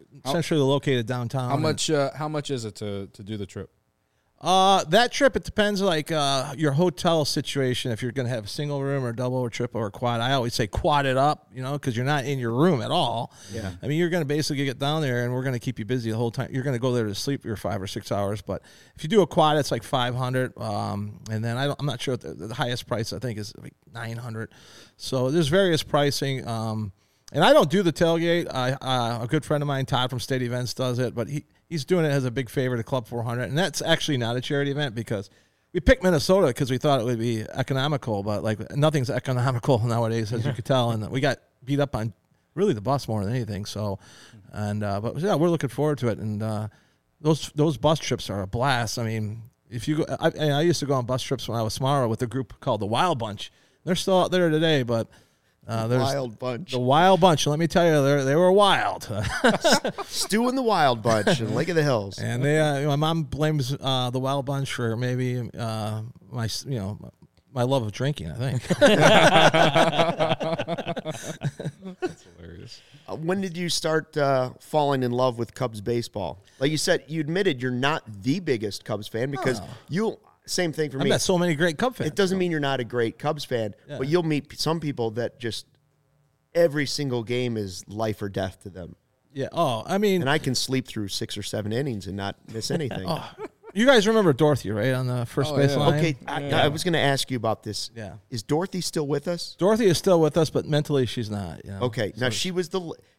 centrally located downtown. How much is it to do the trip? That trip, it depends like your hotel situation. If you're going to have a single room or double or triple or quad, I always say quad it up, because you're not in your room at all. Yeah. I mean, you're going to basically get down there and we're going to keep you busy the whole time. You're going to go there to sleep your 5 or 6 hours. But if you do a quad, it's like $500. And then I'm not sure what the highest price I think is like $900. So there's various pricing. And I don't do the tailgate. A good friend of mine, Todd from State Events, does it, but he's doing it as a big favor to Club 400, and that's actually not a charity event because we picked Minnesota because we thought it would be economical, but like nothing's economical nowadays, as you could tell, and we got beat up on really the bus more than anything. So, but yeah, we're looking forward to it, and those bus trips are a blast. I mean, if you go, I used to go on bus trips when I was smaller with a group called the Wild Bunch. They're still out there today, but. There's Wild Bunch. The Wild Bunch. Let me tell you, they were wild. Stu and the Wild Bunch in Lake of the Hills. And they, my mom blames the Wild Bunch for maybe my love of drinking, I think. That's hilarious. When did you start falling in love with Cubs baseball? Like you said, you admitted you're not the biggest Cubs fan because same thing for me. I've met so many great Cub fans. It doesn't mean you're not a great Cubs fan, but you'll meet some people that just every single game is life or death to them. Yeah. Oh, I mean. And I can sleep through 6 or 7 innings and not miss anything. You guys remember Dorothy, right, on the first base line? Okay, I was going to ask you about this. Yeah. Is Dorothy still with us? Dorothy is still with us, but mentally she's not. Okay. Now, she was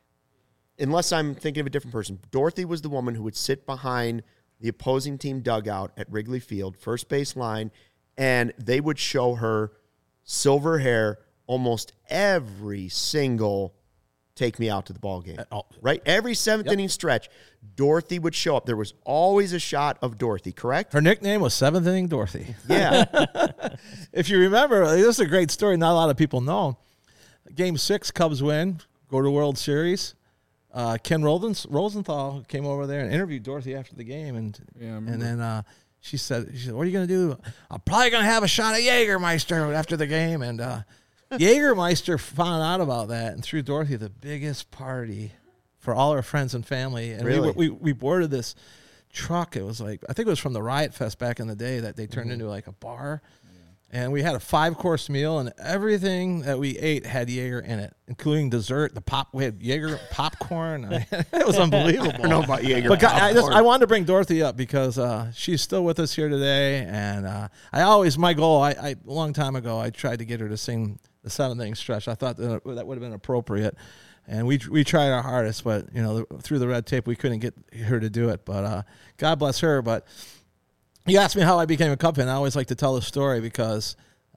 unless I'm thinking of a different person, Dorothy was the woman who would sit behind the opposing team dugout at Wrigley Field, first base line, and they would show her silver hair almost every single take me out to the ball game. Right? Every 7th inning stretch, Dorothy would show up. There was always a shot of Dorothy, correct? Her nickname was 7th Inning Dorothy. Yeah. If you remember, this is a great story. Not a lot of people know. Game 6, Cubs win, go to World Series. Ken Rosenthal came over there and interviewed Dorothy after the game, and then she said, "What are you going to do?" "I'm probably going to have a shot of Jägermeister after the game." And Jägermeister found out about that and threw Dorothy the biggest party for all her friends and family. And really? we boarded this truck. It was like, I think it was from the Riot Fest back in the day that they turned into like a bar. And we had a 5-course meal, and everything that we ate had Jaeger in it, including dessert. We had Jaeger popcorn. It was unbelievable. I don't know about Jaeger but popcorn. I wanted to bring Dorothy up because she's still with us here today. And my goal, a long time ago, I tried to get her to sing the 7th inning stretch. I thought that would have been appropriate. And we tried our hardest, but through the red tape, we couldn't get her to do it. But God bless her. But you asked me how I became a Cub fan. I always like to tell the story because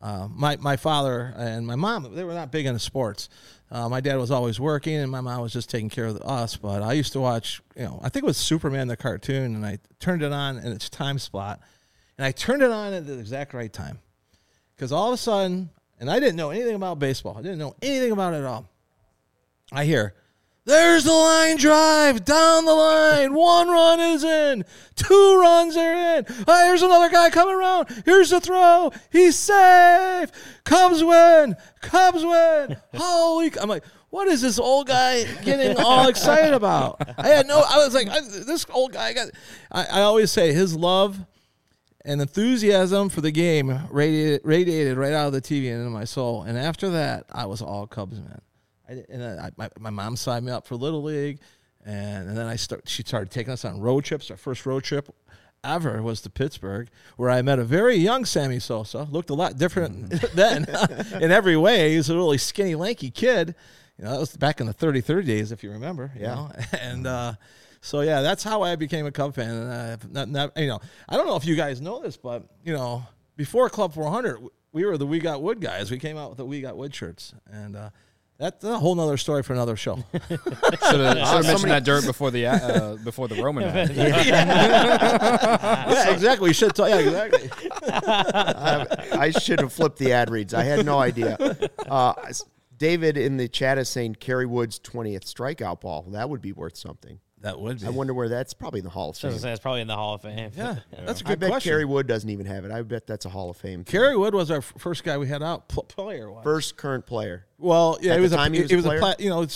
my father and my mom, they were not big into sports. My dad was always working, and my mom was just taking care of us. But I used to watch, I think it was Superman the cartoon, and I turned it on in its time slot. And I turned it on at the exact right time. Because all of a sudden, and I didn't know anything about baseball. I didn't know anything about it at all. I hear, "There's the line drive down the line. 1 run is in. 2 runs are in. Oh, here's another guy coming around. Here's the throw. He's safe. Cubs win. Cubs win." I'm like, what is this old guy getting all excited about? I was like, this old guy I always say his love and enthusiasm for the game radiated right out of the TV and into my soul. And after that, I was all Cubs, man. My mom signed me up for Little League, and then she started taking us on road trips. Our first road trip ever was to Pittsburgh, where I met a very young Sammy Sosa. Looked a lot different then in every way. He was a really skinny, lanky kid. That was back in the 30-30 days, if you remember. And so yeah, that's how I became a Cub fan. And I don't know if you guys know this, but before Club 400, we were the We Got Wood guys. We came out with the We Got Wood shirts, and that's a whole nother story for another show. Should have mentioned that dirt before the Roman ad. Yeah, exactly. We should talk. Yeah, exactly. I should have flipped the ad reads. I had no idea. David in the chat is saying Kerry Wood's 20th strikeout ball. That would be worth something. That would be. I wonder where that's probably in the Hall of I was Fame. gonna say, it's probably in the Hall of Fame. Yeah, that's a I good bet question. Kerry Wood doesn't even have it. I bet that's a Hall of Fame. Kerry Wood was our first guy we had out player. First current player. Well, yeah, At he was the time he was a player? you know,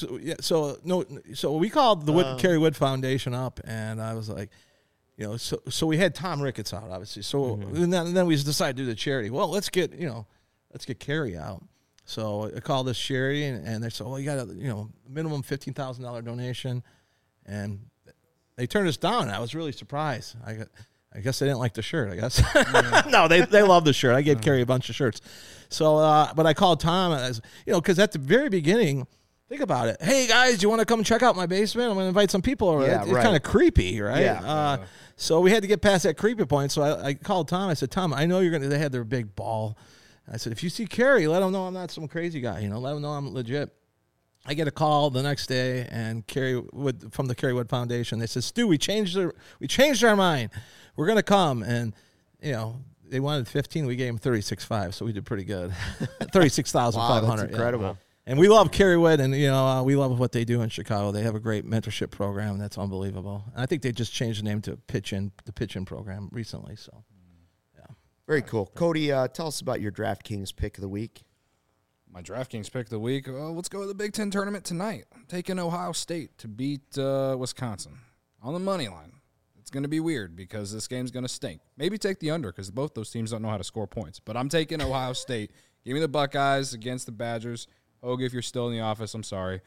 so we called the Kerry Wood Foundation up, and I was like, you know, so we had Tom Ricketts out, obviously. So and then we decided to do the charity. Well, let's get Kerry out. So I called this charity, and they said, well, you got a minimum $15,000 donation, and they turned us down. And I was really surprised. I guess they didn't like the shirt. I guess no, they love the shirt. I gave Kerry a bunch of shirts. So, but I called Tom, as because at the very beginning, think about it. Hey guys, do you want to come check out my basement? I'm going to invite some people over. Yeah, It's right. kind of creepy, right? Yeah. So we had to get past that creepy point. So I called Tom. I said, Tom, I know you're going to. They had their big ball. I said, if you see Kerry, let him know I'm not some crazy guy. Let him know I'm legit. I get a call the next day, and Kerry Wood from the Kerry Wood Foundation. They said, Stu, we changed our mind. We're going to come, and they wanted 15. We gave them 36.5, so we did pretty good. 36,500. Wow, that's incredible. Yeah. And we love Kerry Wood, and we love what they do in Chicago. They have a great mentorship program that's unbelievable. And I think they just changed the name to the Pitch In program recently. So, yeah, Very cool. Cody, tell us about your DraftKings pick of the week. My DraftKings pick of the week. Let's go to the Big Ten tournament tonight. I'm taking Ohio State to beat Wisconsin on the money line. It's going to be weird because this game's going to stink. Maybe take the under because both those teams don't know how to score points. But I'm taking Ohio State. Give me the Buckeyes against the Badgers. Hogue, if you're still in the office, I'm sorry.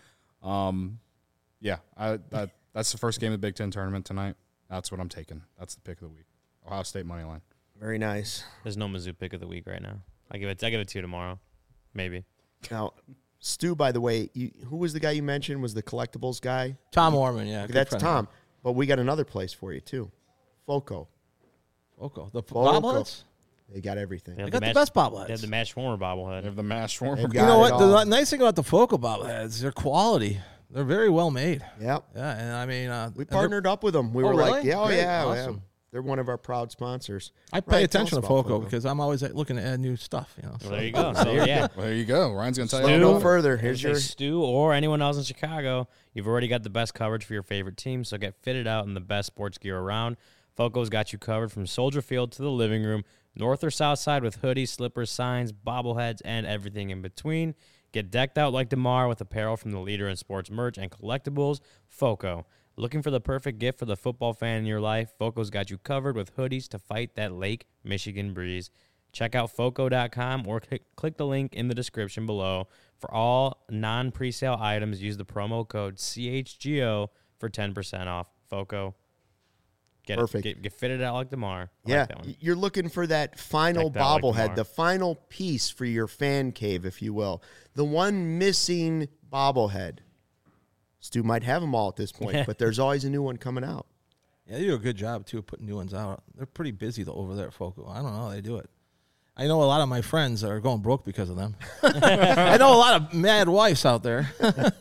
Yeah, that's the first game of the Big Ten tournament tonight. That's what I'm taking. That's the pick of the week. Ohio State money line. Very nice. There's no Mizzou pick of the week right now. I give it to you tomorrow, maybe. Now, Stu, by the way, who was the guy you mentioned was the collectibles guy? Tom Orman, yeah, good That's friend. Tom. But we got another place for you, too. FOCO. Foco, the Foco. bobbleheads. They got everything. They have got the best bobbleheads. They have the Match Warmer bobblehead. They have the mash warmer. They've You got know it what? all. The nice thing about the Foco bobbleheads, their quality. They're very well made. Yep. Yeah, and I mean, We and they're- partnered up with them. We Oh, were like, really? yeah, Great. yeah. Awesome. They're one of our proud sponsors. I pay Ryan, tell attention us to about Foco because I'm always looking to add new stuff. Well, So. there you go. So, yeah. Well, there you go. Ryan's going to tell Slow you. no about it. further. Here's Here's your Stu or anyone else in Chicago. You've already got the best coverage for your favorite team, so get fitted out in the best sports gear around. Foco's got you covered from Soldier Field to the living room, north or south side with hoodies, slippers, signs, bobbleheads, and everything in between. Get decked out like DeMar with apparel from the leader in sports merch and collectibles, Foco. Looking for the perfect gift for the football fan in your life? Foco's got you covered with hoodies to fight that Lake Michigan breeze. Check out Foco.com or click the link in the description below. For all non-presale items, use the promo code CHGO for 10% off. Foco. Perfect. Get fitted out like DeMar. I Yeah, like that one. you're looking for that final Like that, like bobblehead, Lamar. the final piece for your fan cave, if you will. The one missing bobblehead. Stu might have them all at this point, but there's always a new one coming out. Yeah, they do a good job too of putting new ones out. They're pretty busy though over there at Foco. I don't know how they do it. I know a lot of my friends are going broke because of them. I know a lot of mad wives out there.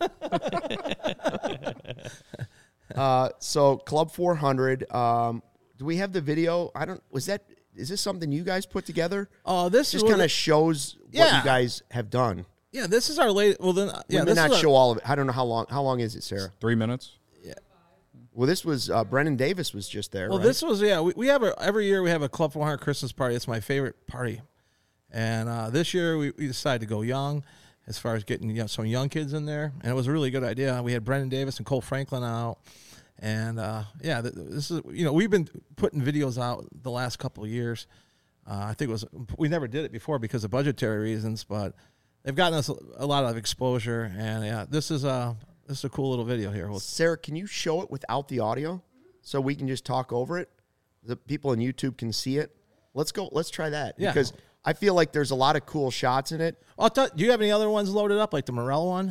So Club 400. Do we have the video? Is this something you guys put together? This Just is kind of shows what Yeah. you guys have done. yeah. This is our latest. Well, then We yeah. may This not is show all of it. I don't know how long. How long is it, Sarah? 3 minutes. Well, this was Brennan Davis was just there. Well, right? this was We have every year we have a Club 400 Christmas party. It's my favorite party, and this year we decided to go young, as far as getting some young kids in there, and it was a really good idea. We had Brendan Davis and Cole Franklin out, and this is we've been putting videos out the last couple of years. I think we never did it before because of budgetary reasons, but they've gotten us a lot of exposure, and yeah, this is a cool little video here. Sarah, can you show it without the audio so we can just talk over it? The people on YouTube can see it. Let's go. Let's try that Yeah. because I feel like there's a lot of cool shots in it. Do you have any other ones loaded up, like the Morel one?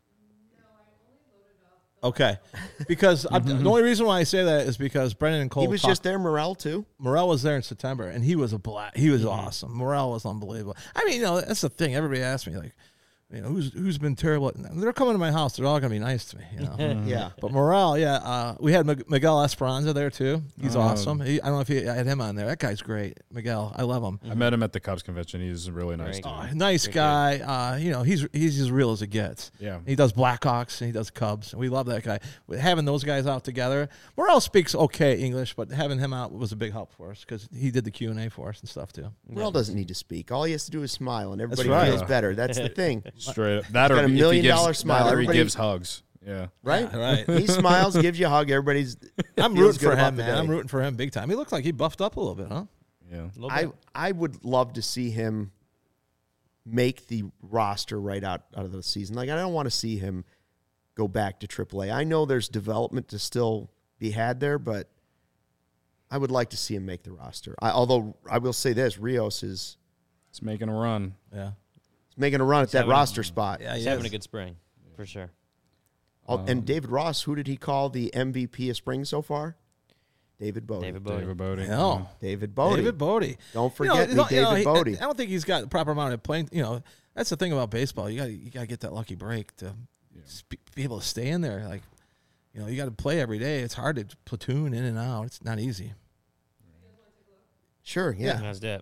Okay, because the only reason why I say that is because Brendan and Cole. He was just there, Morel too. Morel was there in September, and he was He was awesome. Morel was unbelievable. I mean, that's the thing. Everybody asks me, like, who's been terrible. They're coming to my house. They're all going to be nice to me. Yeah. But Morale, we had Miguel Esperanza there too. He's awesome. I don't know if I had him on there. That guy's great. Miguel, I love him. I met him at the Cubs convention. He's a really nice Very dude. good. Nice guy. He's as real as it gets. Yeah. He does Blackhawks and he does Cubs. We love that guy. Having those guys out together. Morale speaks okay English, but having him out was a big help for us because he did the Q&A for us and stuff too. Morel doesn't need to speak. All he has to do is smile, and everybody right. feels better. That's the thing, Straight up. That got or a $1 if he million gives, smile. that or he Everybody- gives hugs. Yeah. right? Right. He smiles, gives you a hug. Everybody's. I'm feels rooting good for about him, the man. day. I'm rooting for him big time. He looks like he buffed up a little bit, huh? Yeah. A little bit. I would love to see him make the roster right out of the season. Like, I don't want to see him go back to AAA. I know there's development to still be had there, but I would like to see him make the roster. Although I will say this, Rios is It's making a run. Yeah. making a run at that having- roster spot. Yeah, He's he having is. a good spring, for sure. And David Ross, who did he call the MVP of spring so far? David Bodie. David Bodie. David Bodie. No. David Bodie. David Bodie. Don't forget me, David Bodie. I don't think he's got the proper amount of playing. That's the thing about baseball. You got to get that lucky break to be able to stay in there. Like, you got to play every day. It's hard to platoon in and out. It's not easy. Sure, yeah. How's that?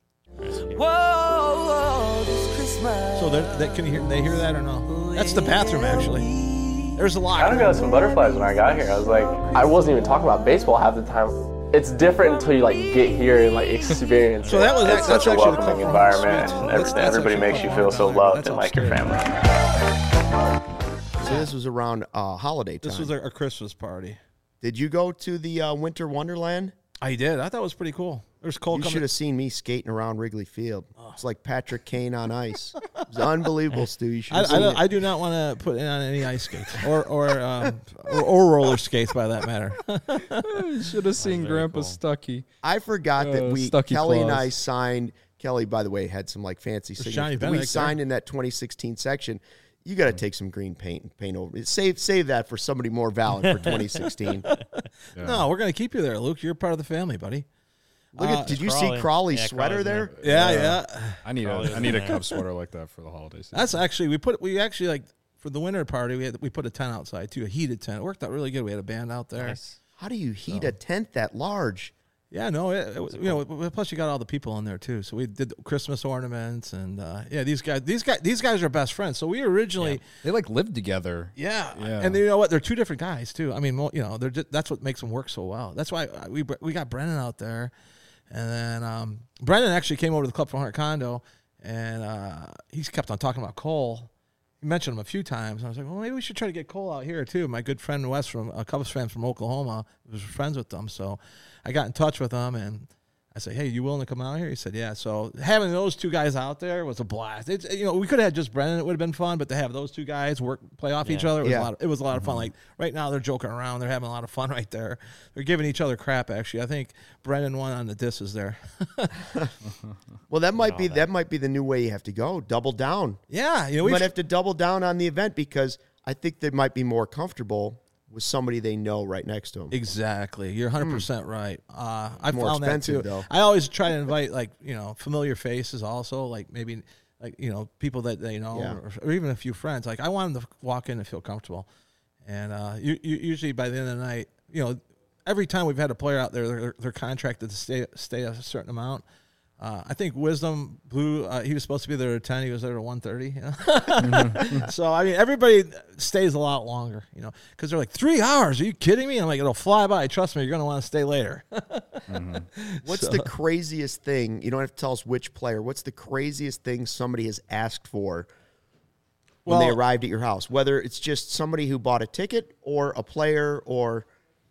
So can you hear? They hear that or no? That's the bathroom actually. There's a I locker. kind of got some butterflies when I got here. I was like, I wasn't even talking about baseball half the time. It's different until you get here and experience. So that was- it. It's that's such a actually the welcoming Club environment, 400 and Smith. That's everybody actually makes you Club feel so 400. loved That's and like your upstairs. family. So this was around holiday time. This was our Christmas party. Did you go to the Winter Wonderland? I did. I thought it was pretty cool. There's Cole You should coming. have seen me skating around Wrigley Field. It's like Patrick Kane on ice. It was unbelievable, Stu. You should have seen it. I do not want to put in on any ice skates or roller skates by that matter. You should have seen very Grandpa cool. Stucky. I forgot that Stucky Kelly and claws. I signed. Kelly, by the way, had some fancy Johnny signatures. We Benedict signed in that 2016 section. You got to take some green paint and paint over it. Save that for somebody more valid for 2016. No, we're gonna keep you there, Luke. You're part of the family, buddy. Look at. Did you see Crawley. Crawley's Yeah, sweater Crawley's there? Yeah. I need Probably a was Cubs sweater like that for the holidays. That's actually we actually for the winter party we put a tent outside too, a heated tent. It worked out really good. We had a band out there. Nice. How do you heat a tent that large? Yeah, no, it was, plus you got all the people in there too. So we did Christmas ornaments and these guys are best friends. So we originally They lived together. Yeah. Yeah. And you know what? They're two different guys too. I mean, they're that's what makes them work so well. That's why we got Brennan out there, and then Brennan actually came over to the Club 400 condo, and he's kept on talking about Cole. He mentioned him a few times. And I was like, well, maybe we should try to get Cole out here too. My good friend Wes from a Cubs fan from Oklahoma was friends with them, so I got in touch with him and I said, hey, you willing to come out here? He said, yeah. So having those two guys out there was a blast. It's we could have had just Brennan. It would have been fun, but to have those two guys play off each other, it was a lot of fun. Like right now, they're joking around. They're having a lot of fun right there. They're giving each other crap. Actually, I think Brennan won on the disses there. Well, that might be the new way you have to go. Double down. Yeah, You might have to double down on the event because I think they might be more comfortable with somebody they know right next to them. Exactly. You're 100% right. I More found that expensive, too. though. I always try to invite familiar faces also, like maybe people that they know Yeah. or even a few friends. Like I want them to walk in and feel comfortable. And you usually by the end of the night, every time we've had a player out there, they're contracted to stay a certain amount. I think Wisdom Blue. He was supposed to be there at 10. He was there at 1:30. So I mean, everybody stays a lot longer, because they're like 3 hours. Are you kidding me? I'm like, it'll fly by. Trust me, you're going to want to stay later. What's the craziest thing? You don't have to tell us which player. What's the craziest thing somebody has asked for when they Well- arrived at your house? Whether it's just somebody who bought a ticket or a player or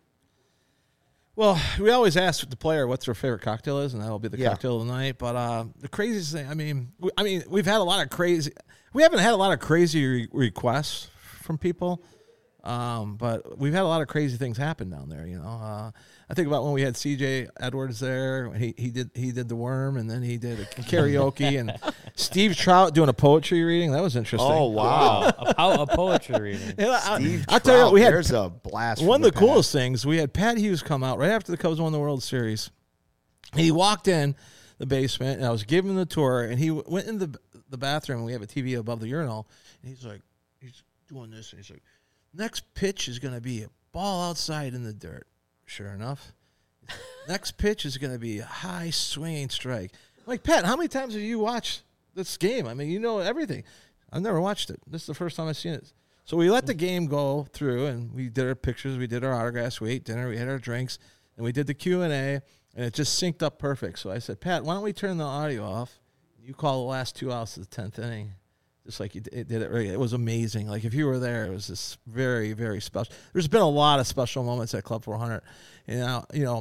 Well, we always ask the player what's their favorite cocktail is, and that'll be the Yeah. cocktail of the night. But the craziest thing, I mean, we've had a lot of crazy. We haven't had a lot of crazy requests from people, but we've had a lot of crazy things happen down there. I think about when we had C.J. Edwards there. He did the worm, and then he did a karaoke, and Steve Trout doing a poetry reading. That was interesting. oh wow, A poetry reading. And Steve I'll tell you what, we had there's a blast. one from of the past. coolest things, we had Pat Hughes come out right after the Cubs won the World Series. And he walked in the basement, and I was giving him the tour, and he went in the bathroom. And we have a TV above the urinal, and he's doing this, and he's like, next pitch is going to be a ball outside in the dirt. Sure enough, next pitch is going to be a high swinging strike. I'm like, Pat, how many times have you watched this game? I mean, you know everything. I've never watched it. This is the first time I've seen it. So we let the game go through, and we did our pictures, we did our autographs, we ate dinner, we had our drinks, and we did the Q&A, and it just synced up perfect. So I said, Pat, why don't we turn the audio off? You call the last 2 outs of the 10th inning, just like you did it right. It was amazing. Like, if you were there, it was just very, very special. There's been a lot of special moments at Club 400. And,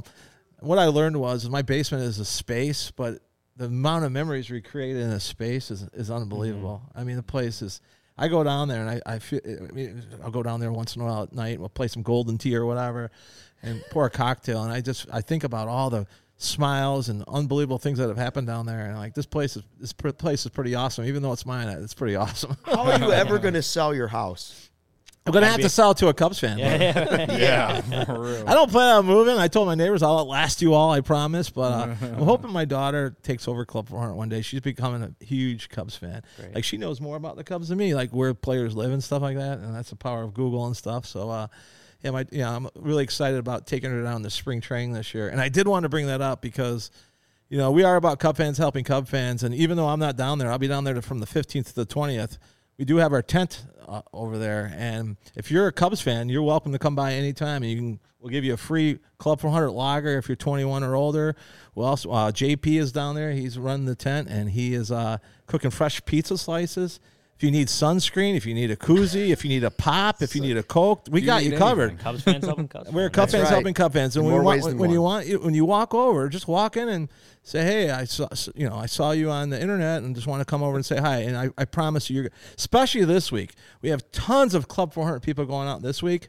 what I learned was my basement is a space, but the amount of memories we created in a space is unbelievable. I mean, the place is. I go down there and I feel. I mean, I'll go down there once in a while at night. We'll play some golden tea or whatever, and pour a cocktail. And I think about all the smiles and unbelievable things that have happened down there. And like, this place is pretty awesome. Even though it's mine, it's pretty awesome. How are you ever going to sell your house? I'm gonna have to sell it to a Cubs fan. Yeah, for real. I don't plan on moving. I told my neighbors I'll outlast you all, I promise. But I'm hoping my daughter takes over Club 400 one day. She's becoming a huge Cubs fan. Great. Like, she knows more about the Cubs than me, like where players live and stuff like that. And that's the power of Google and stuff. So, I'm really excited about taking her down to spring training this year. And I did want to bring that up because, we are about Cub fans helping Cub fans. And even though I'm not down there, I'll be down there from the 15th to the 20th. We do have our tent over there, and if you're a Cubs fan, you're welcome to come by anytime. We'll give you a free Club 400 lager if you're 21 or older. We'll also JP is down there. He's running the tent, and he is cooking fresh pizza slices. If you need sunscreen, if you need a koozie, if you need a pop, if you need a Coke, we got you covered. Cubs fans helping Cubs. We're fans. Cub fans right. helping Cub fans, and In more ways than when one. you walk over, just walk in and say, "Hey, I saw you on the internet, and just want to come over and say hi." And I promise you, especially this week, we have tons of Club 400 people going out this week.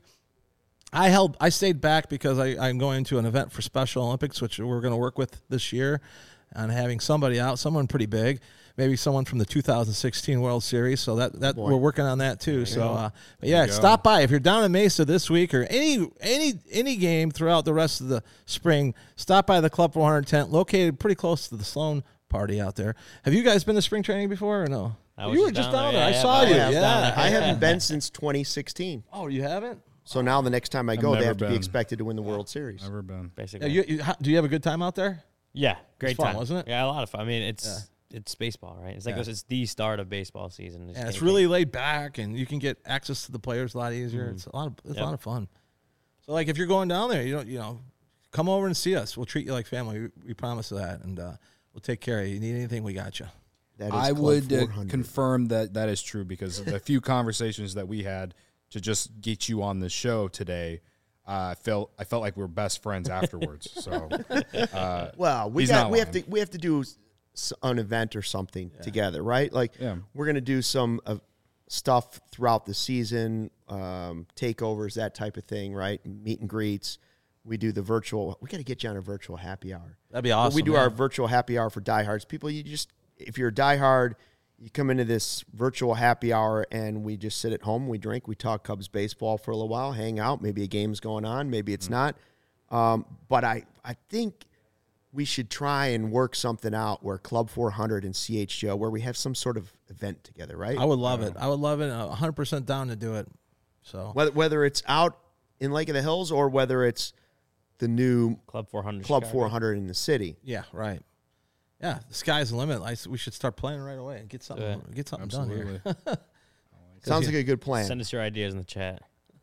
I stayed back because I'm going to an event for Special Olympics, which we're going to work with this year, on having somebody out, someone pretty big. Maybe someone from the 2016 World Series, so that we're working on that too. So, but yeah, stop by if you're down in Mesa this week or any game throughout the rest of the spring. Stop by the Club 400 tent, located pretty close to the Sloan party out there. Have you guys been to spring training before or no? You were just down there. I saw you. Yeah, I haven't been since 2016. Oh, you haven't? So now the next time I go, they never have to be been. expected to win the World Series. Never been. Basically. Do you have a good time out there? Yeah, great It's fun, time, wasn't it? Yeah, a lot of fun. I mean, it's baseball, right? It's like it's the start of baseball season. Yeah, it's really laid back, and you can get access to the players a lot easier. It's a lot of fun. So, like, if you're going down there, come over and see us. We'll treat you like family. We promise that, and we'll take care of you. You need anything, we got you. That is I Club would 400. confirm that is true because of the few conversations that we had to just get you on the show today. I felt like we were best friends afterwards. So, Well, we he's not have lying. to do an event or something together, right? Like, we're gonna do some stuff throughout the season, takeovers, that type of thing, right? Meet and greets. We do the virtual. We got to get you on a virtual happy hour. That'd be awesome. We do man. our virtual happy hour for diehards. People, if you're a diehard, you come into this virtual happy hour and we just sit at home, we drink, we talk Cubs baseball for a little while, hang out. Maybe a game's going on, maybe it's not. But I think we should try and work something out where Club 400 and CHGO, where we have some sort of event together, right? I would love it. I would love it. 100% down to do it. So Whether it's out in Lake of the Hills or whether it's the new Club 400. Club Chicago. 400 in the city. yeah, right. Yeah, the sky's the limit. We should start playing right away and get something done here. absolutely. Sounds like a good plan. Send us your ideas in the chat.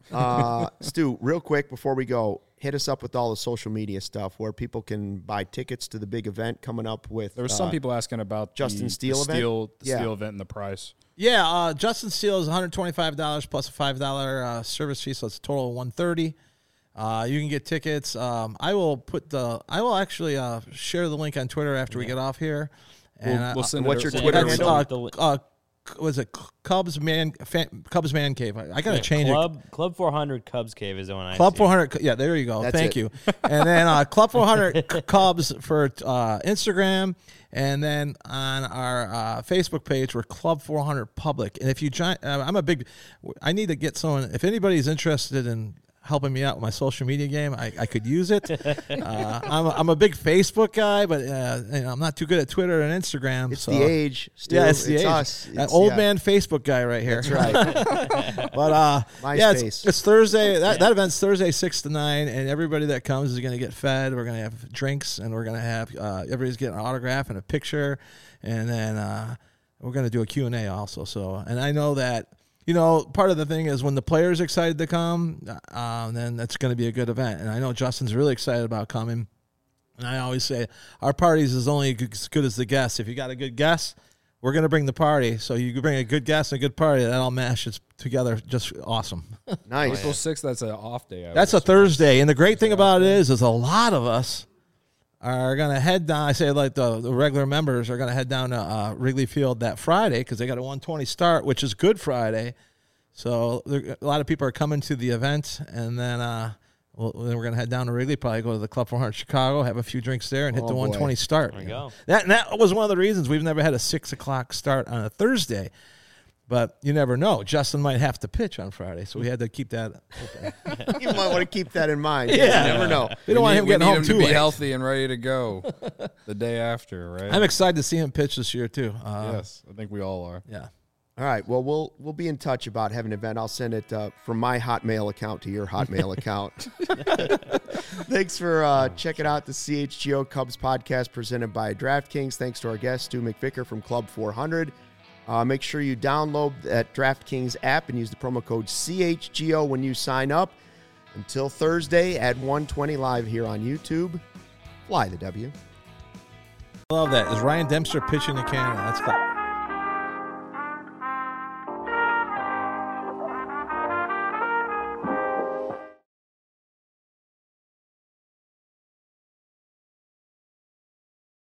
Stu, real quick before we go, hit us up with all the social media stuff where people can buy tickets to the big event coming up with. There were some people asking about Justin the Steele event? Steel Yeah. event and the price. Yeah, Justin Steele is $125 plus a $5 service fee, so it's a total of $130. You can get tickets. I will actually share the link on Twitter after we get off here. And We'll send what's it your send Twitter it handle? Was it Cubs Man Cave? I gotta change it. Club 400 Cubs Cave is the one I Club see. 400. Yeah, there you go. That's Thank it. you. And then Club 400 Cubs for Instagram, and then on our Facebook page we're Club 400 Public. And if you join, I need to get someone. If anybody's interested in helping me out with my social media game. I could use it. I'm a big Facebook guy, but I'm not too good at Twitter and Instagram. It's the age. Stu. Yeah, it's the age. Us. That old man Facebook guy right here. That's right. But MySpace. it's Thursday. That event's Thursday 6 to 9, and everybody that comes is going to get fed. We're going to have drinks, and we're going to have everybody's getting an autograph and a picture, and then we're going to do a Q&A also. So, and I know that part of the thing is when the players are excited to come, then that's going to be a good event. And I know Justin's really excited about coming. And I always say our parties is only as good as the guests. If you got a good guest, we're going to bring the party. So you bring a good guest and a good party, that all mashes together just awesome. Nice. April 6th, that's an off day. That's a Thursday. And the great thing about it is a lot of us are going to head down. I say like the regular members are going to head down to Wrigley Field that Friday because they got a 1:20 start, which is Good Friday. So a lot of people are coming to the event, and then then we're going to head down to Wrigley, probably go to the Club 400 Chicago, have a few drinks there, and hit the 1:20 start. There you go. That was one of the reasons we've never had a 6 o'clock start on a Thursday. But you never know. Justin might have to pitch on Friday, so we had to keep that open. You might want to keep that in mind. Yeah. You never know. We don't want him getting home to too be late. healthy and ready to go the day after, right? I'm excited to see him pitch this year too. Yes, I think we all are. Yeah. All right. Well, we'll be in touch about having an event. I'll send it from my Hotmail account to your Hotmail account. Thanks for checking out the CHGO Cubs podcast presented by DraftKings. Thanks to our guest, Stu McVicker from Club 400. Make sure you download that DraftKings app and use the promo code CHGO when you sign up. Until Thursday at 1:20 live here on YouTube. Fly the W. I love that. Is Ryan Dempster pitching to Canada? That's cool.